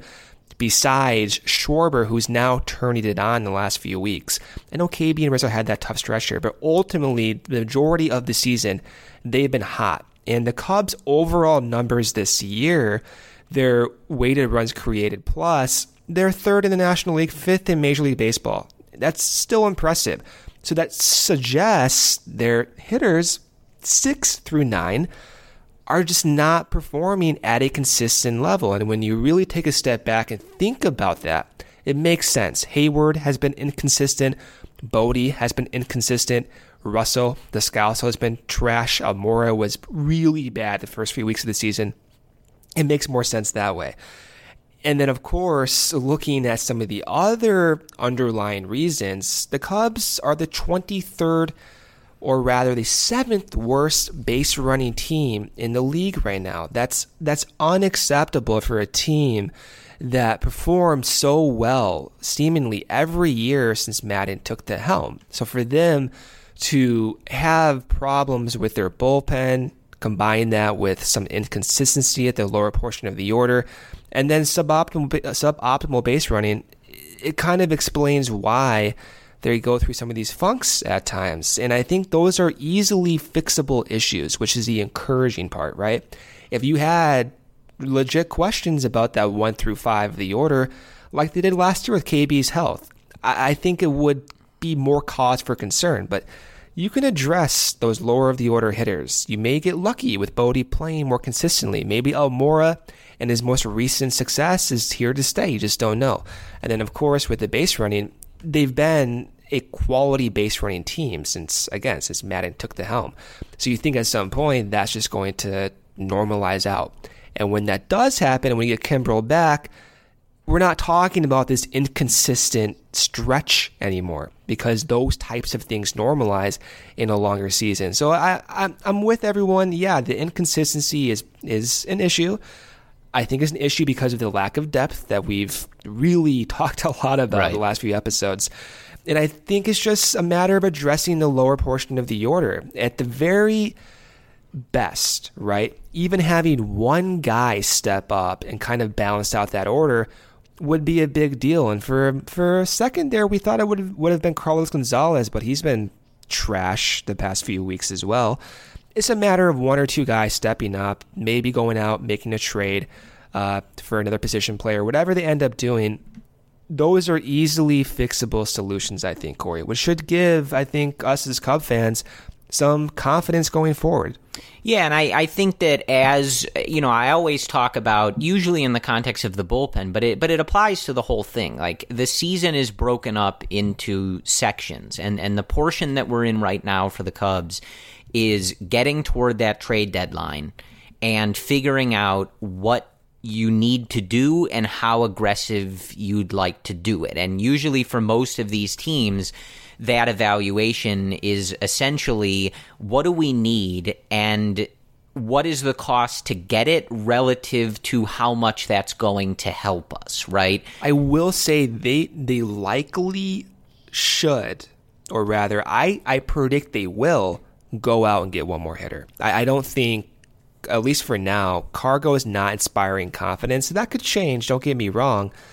besides Schwarber, who's now turning it on in the last few weeks. I know K B and Rizzo had that tough stretch here, but ultimately, the majority of the season, they've been hot. And the Cubs' overall numbers this year, their weighted runs created plus, they're third in the National League, fifth in Major League Baseball. That's still impressive. So that suggests their hitters, six through nine, are just not performing at a consistent level. And when you really take a step back and think about that, it makes sense. Hayward has been inconsistent. Bodie has been inconsistent. Russell, Descalso has been trash. Almora was really bad the first few weeks of the season. It makes more sense that way. And then, of course, looking at some of the other underlying reasons, the Cubs are the twenty-third, or rather the seventh worst base running team in the league right now. That's that's unacceptable for a team that performed so well seemingly every year since Maddon took the helm. So for them to have problems with their bullpen, combine that with some inconsistency at the lower portion of the order, and then suboptimal suboptimal base running, it kind of explains why they go through some of these funks at times. And I think those are easily fixable issues, which is the encouraging part, right? If you had legit questions about that one through five of the order, like they did last year with K B's health, I, I think it would be more cause for concern. But you can address those lower of the order hitters. You may get lucky with Bodie playing more consistently. Maybe Almora and his most recent success is here to stay. You just don't know. And then, of course, with the base running, they've been a quality base running team since, again, since Maddon took the helm. So you think at some point that's just going to normalize out. And when that does happen, and when you get Kimbrel back, we're not talking about this inconsistent stretch anymore, because those types of things normalize in a longer season. So I, I'm, I'm with everyone. Yeah, the inconsistency is is an issue. I think it's an issue because of the lack of depth that we've really talked a lot about right. in the last few episodes. And I think it's just a matter of addressing the lower portion of the order. At the very best, right? Even having one guy step up and kind of balance out that order would be a big deal. And for for a second there, we thought it would have, would have been Carlos Gonzalez, but he's been trash the past few weeks as well. It's a matter of one or two guys stepping up, maybe going out, making a trade uh, for another position player, whatever they end up doing. Those are easily fixable solutions, I think, Corey, which should give, I think, us as Cub fans some confidence going forward. Yeah, and I, I think that as, you know, I always talk about, usually in the context of the bullpen, but it but it applies to the whole thing. Like, the season is broken up into sections, and, and the portion that we're in right now for the Cubs is getting toward that trade deadline and figuring out what you need to do and how aggressive you'd like to do it. And usually for most of these teams, that evaluation is essentially, what do we need and what is the cost to get it relative to how much that's going to help us, right? I will say they they likely should, or rather, I, I predict they will go out and get one more hitter. I, I don't think, at least for now, Cargo is not inspiring confidence. That could change, don't get me wrong.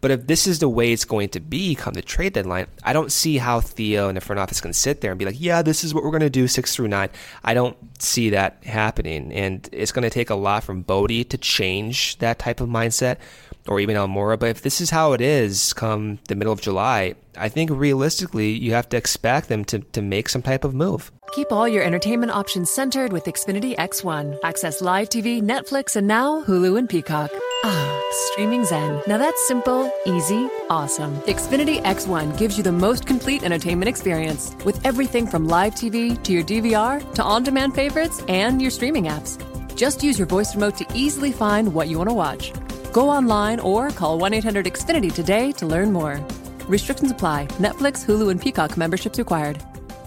But if this is the way it's going to be come the trade deadline, I don't see how Theo and the front office can sit there and be like, yeah, this is what we're going to do six through nine. I don't see that happening. And it's going to take a lot from Bodie to change that type of mindset, or even Almora. But if this is how it is come the middle of July, I think realistically you have to expect them to, to make some type of move. Keep all your entertainment options centered with Xfinity X one. Access live T V, Netflix, and now Hulu and Peacock. Ah, streaming zen. Now that's simple, easy, awesome. Xfinity X one gives you the most complete entertainment experience with everything from live T V to your D V R to on-demand favorites and your streaming apps. Just use your voice remote to easily find what you want to watch. Go online or call one eight hundred X Finity today to learn more. Restrictions apply. Netflix, Hulu, and Peacock memberships required.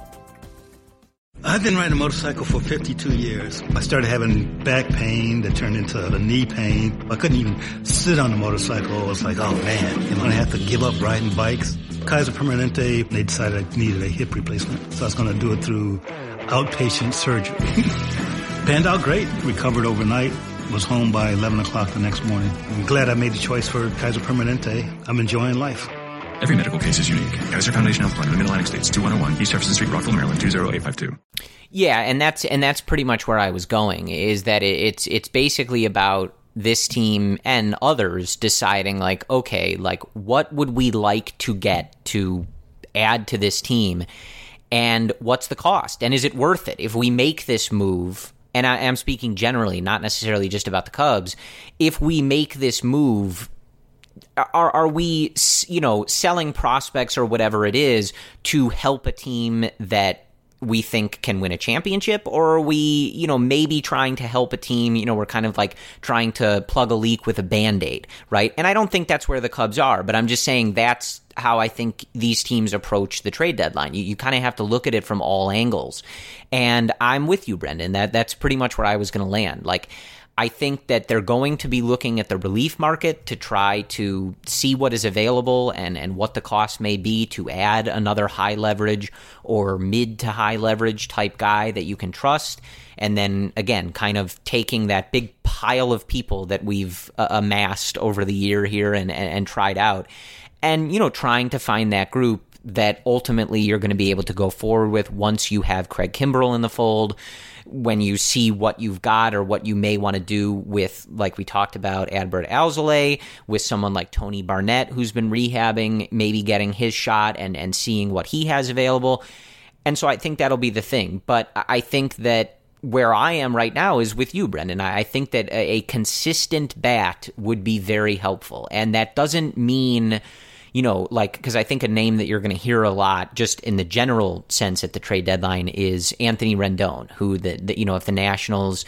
I've been riding a motorcycle for fifty-two years. I started having back pain that turned into a knee pain. I couldn't even sit on the motorcycle. I was like, oh man, am I going to have to give up riding bikes? Kaiser Permanente, they decided I needed a hip replacement. So I was going to do it through outpatient surgery. Panned out great. Recovered overnight. Was home by eleven o'clock the next morning. I'm glad I made the choice for Kaiser Permanente. I'm enjoying life. Every medical case is unique. Kaiser Foundation Health Plan of the Mid-Atlantic States, two one zero one East Jefferson Street, Rockville, Maryland, two zero eight five two. Yeah, and that's and that's pretty much where I was going, is that it, it's it's basically about this team and others deciding, like, okay, like, what would we like to get to add to this team, and what's the cost, and is it worth it if we make this move? And I am speaking generally, not necessarily just about the Cubs. If we make this move, Are are we, you know, selling prospects or whatever it is to help a team that we think can win a championship? Or are we, you know, maybe trying to help a team, you know, we're kind of like trying to plug a leak with a Band-Aid, right? And I don't think that's where the Cubs are, but I'm just saying that's how I think these teams approach the trade deadline. You, you kind of have to look at it from all angles. And I'm with you, Brendan. That that's pretty much where I was going to land. Like, I think that they're going to be looking at the relief market to try to see what is available and, and what the cost may be to add another high leverage or mid to high leverage type guy that you can trust. And then, again, kind of taking that big pile of people that we've uh, amassed over the year here and, and, and tried out and, you know, trying to find that group that ultimately you're going to be able to go forward with once you have Craig Kimbrell in the fold, when you see what you've got or what you may want to do with, like we talked about, Adbert Alzolay, with someone like Tony Barnett, who's been rehabbing, maybe getting his shot and, and seeing what he has available. And so I think that'll be the thing. But I think that where I am right now is with you, Brendan. I think that a, a consistent bat would be very helpful. And that doesn't mean, you know, like, because I think a name that you're going to hear a lot just in the general sense at the trade deadline is Anthony Rendon, who, the, the you know, if the Nationals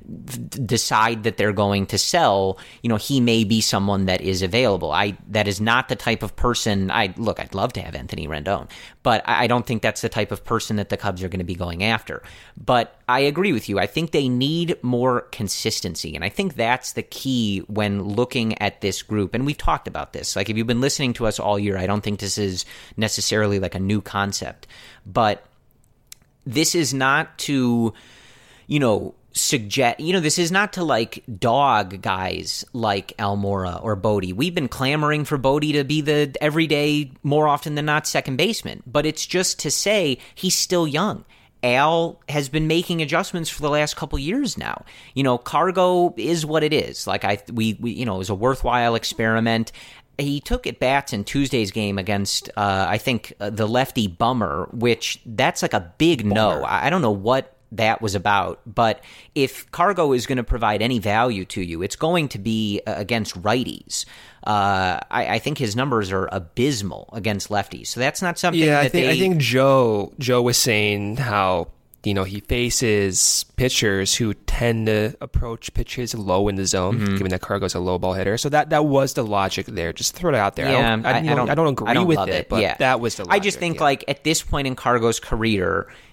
decide that they're going to sell, you know, he may be someone that is available. I that is not the type of person. I look, I'd love to have Anthony Rendon, but I don't think that's the type of person that the Cubs are going to be going after. But I agree with you. I think they need more consistency, and I think that's the key when looking at this group. And we've talked about this. Like, if you've been listening to us all year, I don't think this is necessarily like a new concept, but this is not to, you know, suggest, you know, this is not to like dog guys like Almora or Bodie. We've been clamoring for Bodie to be the everyday, more often than not, second baseman, but it's just to say he's still young. Al has been making adjustments for the last couple years now. You know, Cargo is what it is. Like I, we, we you know, it was a worthwhile experiment. He took at bats in Tuesday's game against, uh, I think, uh, the lefty Bummer, which that's like a big Bummer. no. I, I don't know what that was about, but if Cargo is going to provide any value to you, it's going to be against righties. Uh, I, I think his numbers are abysmal against lefties, so that's not something. Yeah, that I think they... I think Joe Joe was saying how, you know, he faces pitchers who tend to approach pitches low in the zone, mm-hmm. given that Cargo's a low ball hitter. So that, that was the logic there. Just throw it out there. Yeah, I don't, I, I, I, know, don't, I don't agree I don't with love it, it, but yeah. that was the logic. I just think, yeah. like, at this point in Cargo's career,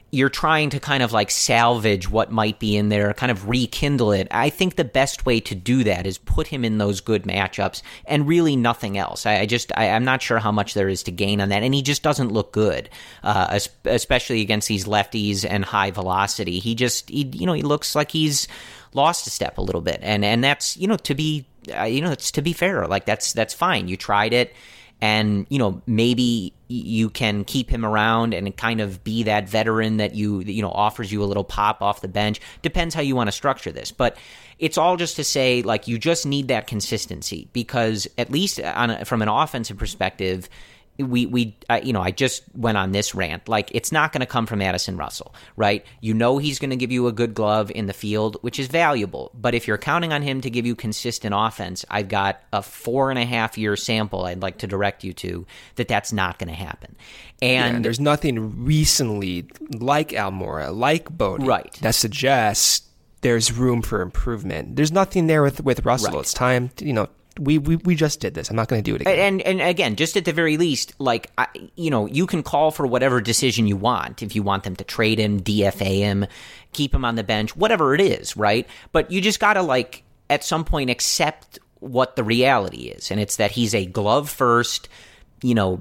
you're trying to kind of like salvage what might be in there, kind of rekindle it. I think the best way to do that is put him in those good matchups and really nothing else. I, I just, I, I'm not sure how much there is to gain on that. And he just doesn't look good, uh, especially against these lefties and high velocity. He just, he, you know, he looks like he's lost a step a little bit. And, and that's, you know, to be, uh, you know, it's to be fair. Like that's, that's fine. You tried it. And, you know, maybe you can keep him around and kind of be that veteran that you, you know, offers you a little pop off the bench. Depends how you want to structure this. But it's all just to say, like, you just need that consistency because at least on a, from an offensive perspective, we, we uh, you know, I just went on this rant. Like, it's not going to come from Addison Russell, right? You know he's going to give you a good glove in the field, which is valuable. But if you're counting on him to give you consistent offense, I've got a four and a half year sample I'd like to direct you to that that's not going to happen. And yeah, there's nothing recently like Almora, like Bodie, right, that suggests there's room for improvement. There's nothing there with, with Russell. Right. It's time to, you know, We, we we just did this. I'm not going to do it again. And and again, just at the very least, like, I, you know, you can call for whatever decision you want. If you want them to trade him, D F A him, keep him on the bench, whatever it is, right? But you just got to, like, at some point accept what the reality is. And it's that he's a glove first, you know,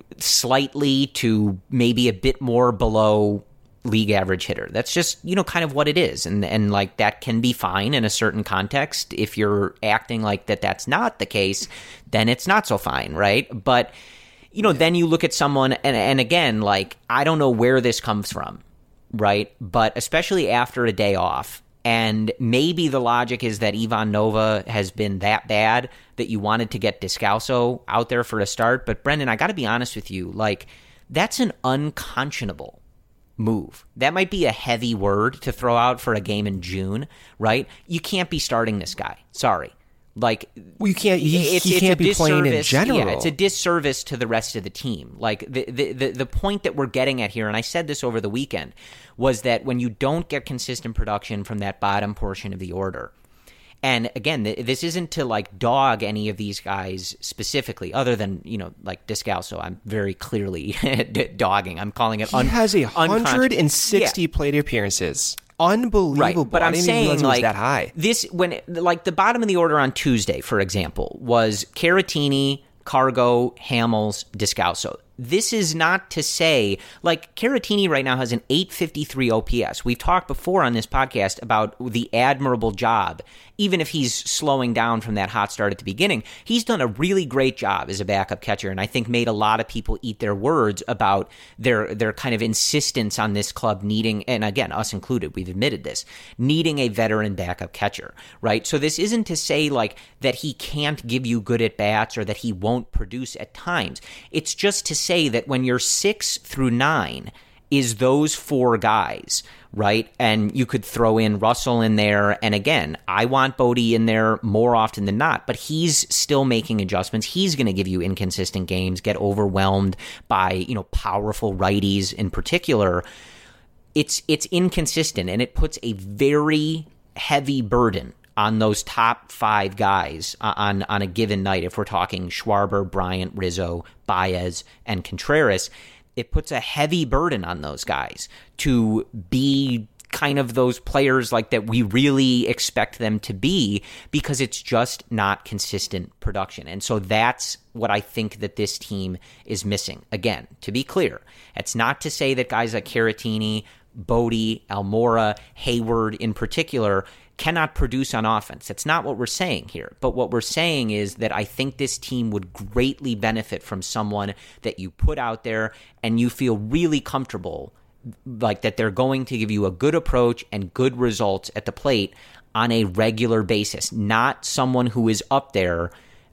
slightly to maybe a bit more below league average hitter. That's just, you know, kind of what it is. And, and like, that can be fine in a certain context. If you're acting like that that's not the case, then it's not so fine, right? But, you know, yeah. then you look at someone, and, and again, like, I don't know where this comes from, right? But especially after a day off, and maybe the logic is that Ivan Nova has been that bad that you wanted to get Descalso out there for a start. But Brendan, I got to be honest with you, like, that's an unconscionable move. That might be a heavy word to throw out for a game in June, right? You can't be starting this guy. Sorry. Like, well, you can't. He, it's, he it's can't be playing in general. Yeah, it's a disservice to the rest of the team. Like the, the the the point that we're getting at here, and I said this over the weekend, was that when you don't get consistent production from that bottom portion of the order, and again, this isn't to like dog any of these guys specifically, other than, you know, like Descalso. I'm very clearly dogging. I'm calling it. Un- he has a hundred and sixty yeah. plate appearances. Unbelievable. Right, but I'm saying, like, that high. This, when, like, the bottom of the order on Tuesday, for example, was Caratini, Cargo, Hamels, Descalso. This is not to say, like, Caratini right now has an eight fifty-three O P S. We've talked before on this podcast about the admirable job. Even if he's slowing down from that hot start at the beginning, he's done a really great job as a backup catcher, and I think made a lot of people eat their words about their their kind of insistence on this club needing, and again, us included, we've admitted this, needing a veteran backup catcher, right? So this isn't to say, like, that he can't give you good at-bats or that he won't produce at times. It's just to say that when you're six through nine is those four guys, right? And you could throw in Russell in there. And again, I want Bodie in there more often than not, but he's still making adjustments. He's going to give you inconsistent games, get overwhelmed by, you know, powerful righties in particular. It's, it's inconsistent, and it puts a very heavy burden on those top five guys on, on a given night. If we're talking Schwarber, Bryant, Rizzo, Baez, and Contreras, it puts a heavy burden on those guys to be kind of those players like that we really expect them to be, because it's just not consistent production. And so that's what I think that this team is missing. Again, to be clear, it's not to say that guys like Caratini, Bodie, Almora, Hayward in particular cannot produce on offense. That's not what we're saying here. But what we're saying is that I think this team would greatly benefit from someone that you put out there and you feel really comfortable, like that they're going to give you a good approach and good results at the plate on a regular basis, not someone who is up there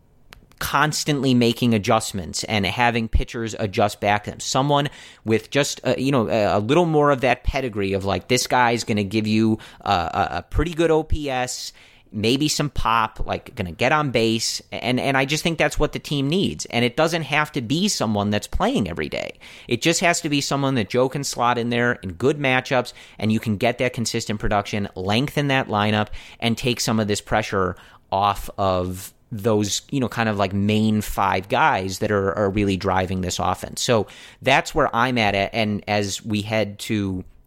constantly making adjustments and having pitchers adjust back to them. Someone with just uh, you know a, a little more of that pedigree of, like, this guy's going to give you uh, a, a pretty good O P S, maybe some pop, like going to get on base, and and I just think that's what the team needs. And it doesn't have to be someone that's playing every day. It just has to be someone that Joe can slot in there in good matchups, and you can get that consistent production, lengthen that lineup, and take some of this pressure off of those, you know, kind of like main five guys that are, are really driving this offense. So that's where I'm at. And as we head to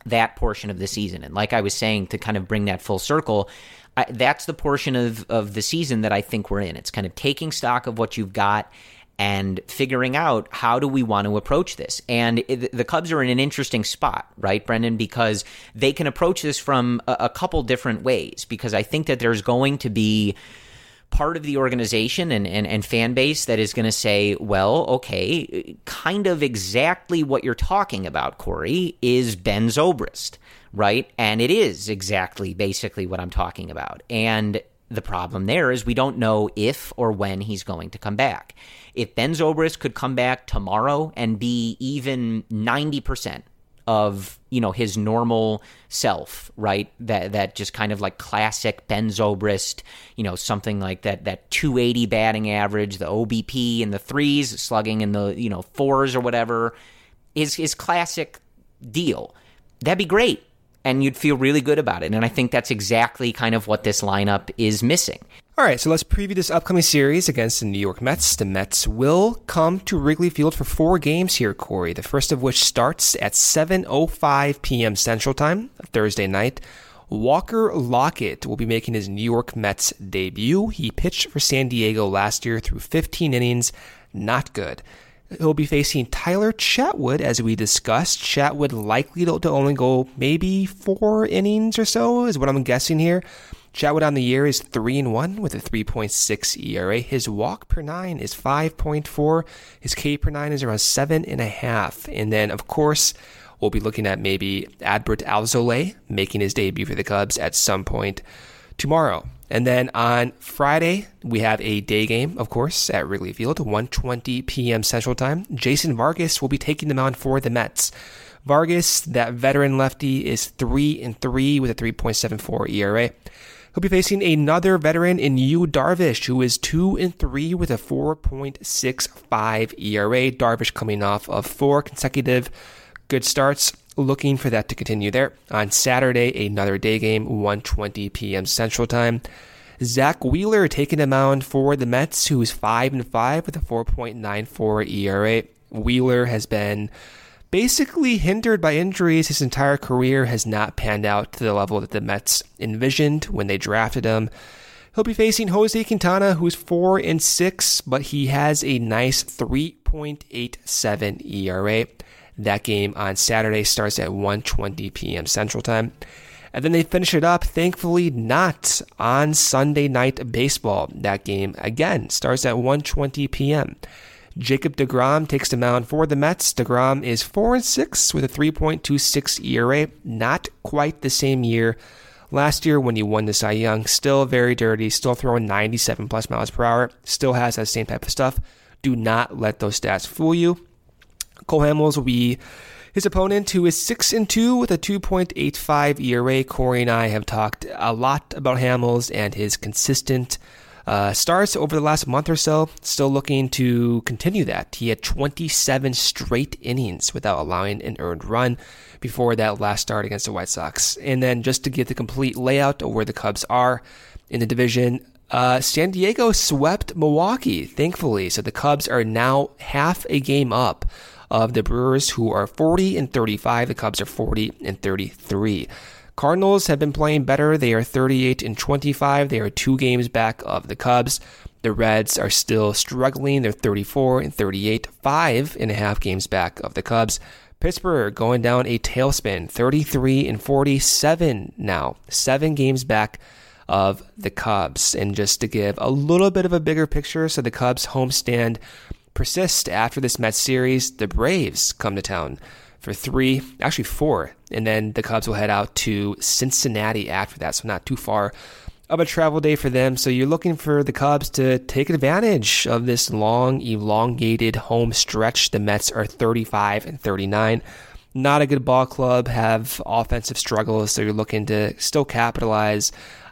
that portion of the season. And like I was saying, to kind of bring that full circle, I, that's the portion of, of the season that I think we're in. It's kind of taking stock of what you've got and figuring out how do we want to approach this. And it, the Cubs are in an interesting spot, right, Brendan, because they can approach this from a, a couple different ways, because I think that there's going to be part of the organization and, and, and fan base that is going to say, well, okay, kind of exactly what you're talking about, Corey, is Ben Zobrist, right? And it is exactly basically what I'm talking about. And the problem there is we don't know if or when he's going to come back. If Ben Zobrist could come back tomorrow and be even ninety percent of, you know, his normal self, right? That that just kind of like classic Ben Zobrist, you know, something like that that two eighty batting average, the O B P in the threes, slugging in the, you know, fours or whatever, is his classic deal. That'd be great. And you'd feel really good about it. And I think that's exactly kind of what this lineup is missing. All right, so let's preview this upcoming series against the New York Mets. The Mets will come to Wrigley Field for four games here, Corey, the first of which starts at seven oh five p.m. Central Time, Thursday night. Walker Lockett will be making his New York Mets debut. He pitched for San Diego last year through fifteen innings. Not good. He'll be facing Tyler Chatwood, as we discussed. Chatwood likely to, to only go maybe four innings or so, is what I'm guessing here. Chatwood on the year is three and one with a three point six E R A. His walk per nine is five point four. His K per nine is around seven and a half. And then, of course, we'll be looking at maybe Adbert Alzolay making his debut for the Cubs at some point tomorrow. And then on Friday, we have a day game, of course, at Wrigley Field, one twenty p.m. Central Time. Jason Vargas will be taking the mound for the Mets. Vargas, that veteran lefty, is three and three with a three point seven four E R A. He'll be facing another veteran in Yu Darvish, who is two and three with a four point six five E R A. Darvish coming off of four consecutive good starts. Looking for that to continue there. On Saturday, another day game, one twenty p.m. Central Time. Zach Wheeler taking the mound for the Mets, who is five and five with a four point nine four E R A. Wheeler has been basically hindered by injuries. His entire career has not panned out to the level that the Mets envisioned when they drafted him. He'll be facing Jose Quintana, who's four and six, but he has a nice three point eight seven E R A. That game on Saturday starts at one twenty p.m. Central Time. And then they finish it up, thankfully not on Sunday Night Baseball. That game, again, starts at one twenty p.m. Jacob deGrom takes the mound for the Mets. DeGrom is four and six with a three point two six E R A. Not quite the same year last year when he won the Cy Young. Still very dirty, still throwing ninety-seven plus miles per hour. Still has that same type of stuff. Do not let those stats fool you. Cole Hamels will be his opponent, who is six and two with a two point eight five E R A. Corey and I have talked a lot about Hamels and his consistent uh, starts over the last month or so. Still looking to continue that. He had twenty-seven straight innings without allowing an earned run before that last start against the White Sox. And then just to get the complete layout of where the Cubs are in the division, Uh, San Diego swept Milwaukee, thankfully. So the Cubs are now half a game up of the Brewers, who are forty and thirty-five. The Cubs are forty and thirty-three. Cardinals have been playing better. They are thirty-eight and twenty-five. They are two games back of the Cubs. The Reds are still struggling. They're thirty-four and thirty-eight, five and a half games back of the Cubs. Pittsburgh going down a tailspin, thirty-three and forty-seven now, seven games back of the Cubs. And just to give a little bit of a bigger picture, so the Cubs homestand persists after this Mets series. The Braves come to town for three, actually four, and then the Cubs will head out to Cincinnati after that, so not too far of a travel day for them. So you're looking for the Cubs to take advantage of this long, elongated home stretch. The Mets are thirty-five and thirty-nine. Not a good ball club, have offensive struggles, so you're looking to still capitalize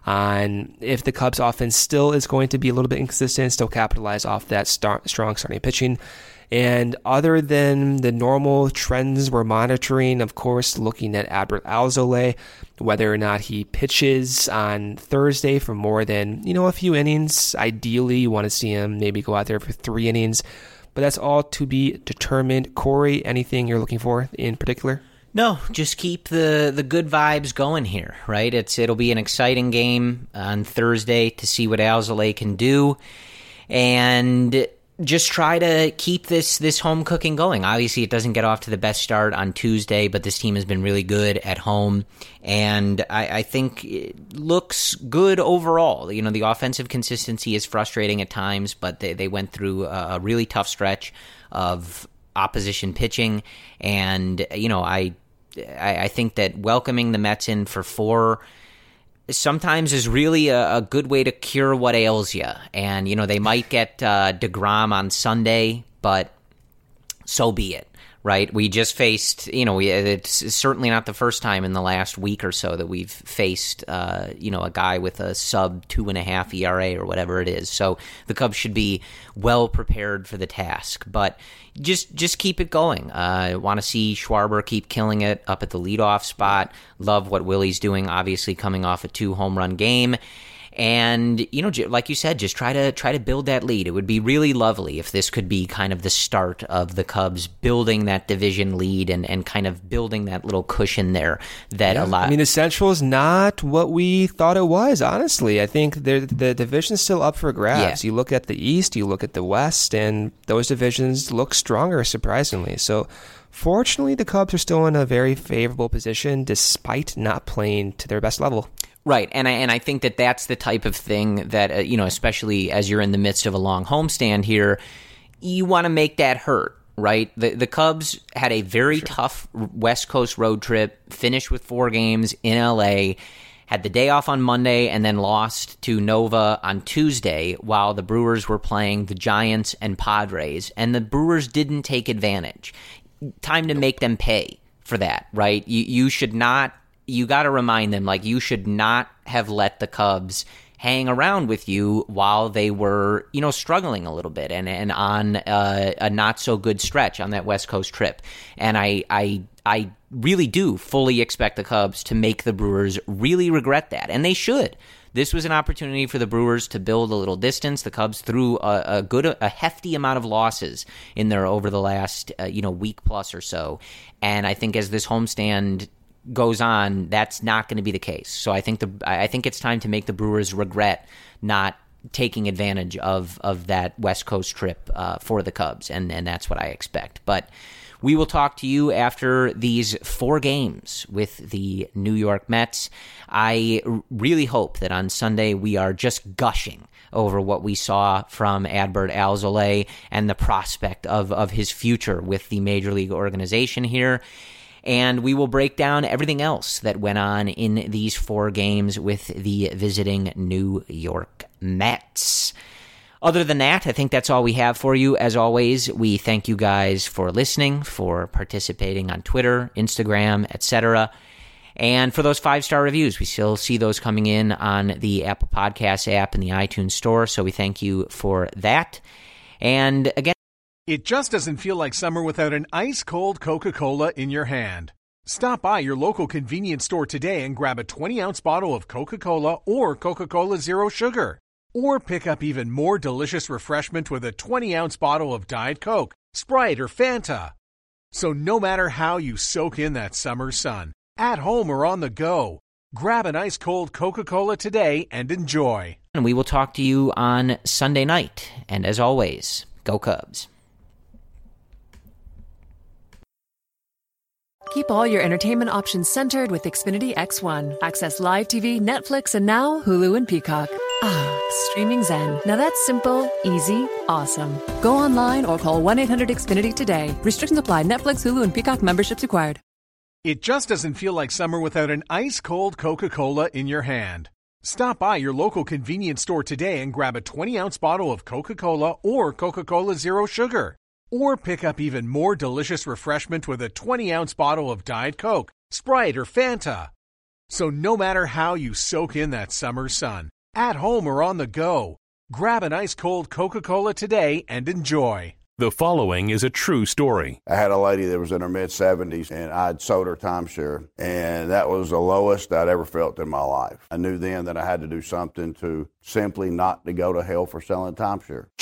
on, if the Cubs offense still is going to be a little bit inconsistent, still capitalize off that start, strong starting pitching. And other than the normal trends we're monitoring, of course, looking at Adbert Alzolay, whether or not he pitches on Thursday for more than, you know, a few innings. Ideally, you want to see him maybe go out there for three innings, but that's all to be determined. Corey, anything you're looking for in particular? No, just keep the, the good vibes going here, right? It's It'll be an exciting game on Thursday to see what Alzolay can do, and just try to keep this, this home cooking going. Obviously, it doesn't get off to the best start on Tuesday, but this team has been really good at home, and I, I think it looks good overall. You know, the offensive consistency is frustrating at times, but they, they went through a, a really tough stretch of opposition pitching, and, you know, I... I, I think that welcoming the Mets in for four sometimes is really a, a good way to cure what ails you. And, you know, they might get uh, DeGrom on Sunday, but so be it, right? We just faced, you know, we, it's certainly not the first time in the last week or so that we've faced, uh, you know, a guy with a sub two and a half E R A or whatever it is. So the Cubs should be well prepared for the task. But Just just keep it going. I uh, want to see Schwarber keep killing it up at the leadoff spot. Love what Willie's doing, obviously coming off a two-home run game. And, you know, like you said, just try to try to build that lead. It would be really lovely if this could be kind of the start of the Cubs building that division lead and, and kind of building that little cushion there that yeah, a lot... I mean, the Central is not what we thought it was, honestly. I think the, the division's still up for grabs. Yeah. You look at the East, you look at the West, and those divisions look stronger, surprisingly. So, fortunately, the Cubs are still in a very favorable position despite not playing to their best level. Right, and I and I think that that's the type of thing that, uh, you know, especially as you're in the midst of a long homestand here, you want to make that hurt, right? The the Cubs had a very sure. tough West Coast road trip, finished with four games in L A, had the day off on Monday, and then lost to Nova on Tuesday while the Brewers were playing the Giants and Padres, and the Brewers didn't take advantage. Time to make them pay for that, right? You you should not... You got to remind them, like, you should not have let the Cubs hang around with you while they were, you know, struggling a little bit and, and on uh, a not so good stretch on that West Coast trip. And I, I, I really do fully expect the Cubs to make the Brewers really regret that, and they should. This was an opportunity for the Brewers to build a little distance. The Cubs threw a, a good, a hefty amount of losses in there over the last, uh, you know, week plus or so. And I think as this homestand goes on, that's not going to be the case. So I think the I think it's time to make the Brewers regret not taking advantage of of that West Coast trip uh, for the Cubs, and and that's what I expect. But we will talk to you after these four games with the New York Mets. I really hope that on Sunday we are just gushing over what we saw from Adbert Alzolay and the prospect of of his future with the Major League organization here. And we will break down everything else that went on in these four games with the visiting New York Mets. Other than that, I think that's all we have for you. As always, we thank you guys for listening, for participating on Twitter, Instagram, et cetera. And for those five-star reviews, we still see those coming in on the Apple Podcasts app and the iTunes Store, so we thank you for that. And again, it just doesn't feel like summer without an ice-cold Coca-Cola in your hand. Stop by your local convenience store today and grab a twenty-ounce bottle of Coca-Cola or Coca-Cola Zero Sugar. Or pick up even more delicious refreshment with a twenty-ounce bottle of Diet Coke, Sprite, or Fanta. So no matter how you soak in that summer sun, at home or on the go, grab an ice-cold Coca-Cola today and enjoy. And we will talk to you on Sunday night. And as always, go Cubs. Keep all your entertainment options centered with Xfinity X one. Access live T V, Netflix, and now Hulu and Peacock. Ah, streaming zen. Now that's simple, easy, awesome. Go online or call one eight hundred X Finity today. Restrictions apply. Netflix, Hulu, and Peacock memberships required. It just doesn't feel like summer without an ice-cold Coca-Cola in your hand. Stop by your local convenience store today and grab a twenty-ounce bottle of Coca-Cola or Coca-Cola Zero Sugar. Or pick up even more delicious refreshment with a twenty-ounce bottle of Diet Coke, Sprite, or Fanta. So no matter how you soak in that summer sun, at home or on the go, grab an ice-cold Coca-Cola today and enjoy. The following is a true story. I had a lady that was in her mid-seventies, and I'd sold her timeshare, and that was the lowest I'd ever felt in my life. I knew then that I had to do something to simply not to go to hell for selling timeshare.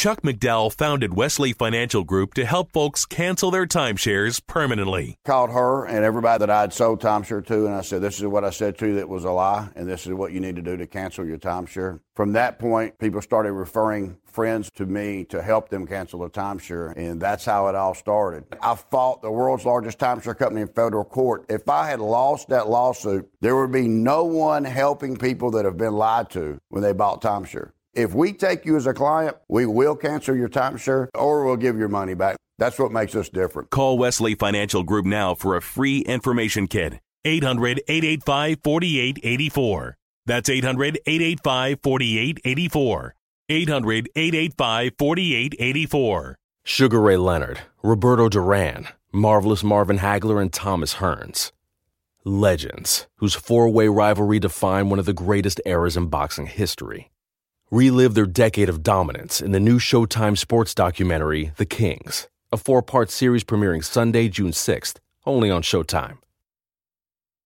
Chuck McDowell founded Wesley Financial Group to help folks cancel their timeshares permanently. Called her and everybody that I'd sold timeshare to, and I said, this is what I said to you that was a lie, and this is what you need to do to cancel your timeshare. From that point, people started referring friends to me to help them cancel their timeshare, and that's how it all started. I fought the world's largest timeshare company in federal court. If I had lost that lawsuit, there would be no one helping people that have been lied to when they bought timeshare. If we take you as a client, we will cancel your timeshare or we'll give your money back. That's what makes us different. Call Wesley Financial Group now for a free information kit. eight hundred, eight eight five, four eight eight four. That's eight hundred, eight eight five, four eight eight four. eight hundred, eight eight five, four eight eight four. Sugar Ray Leonard, Roberto Duran, Marvelous Marvin Hagler, and Thomas Hearns. Legends, whose four-way rivalry defined one of the greatest eras in boxing history. Relive their decade of dominance in the new Showtime sports documentary, The Kings, a four-part series premiering Sunday, June sixth, only on Showtime.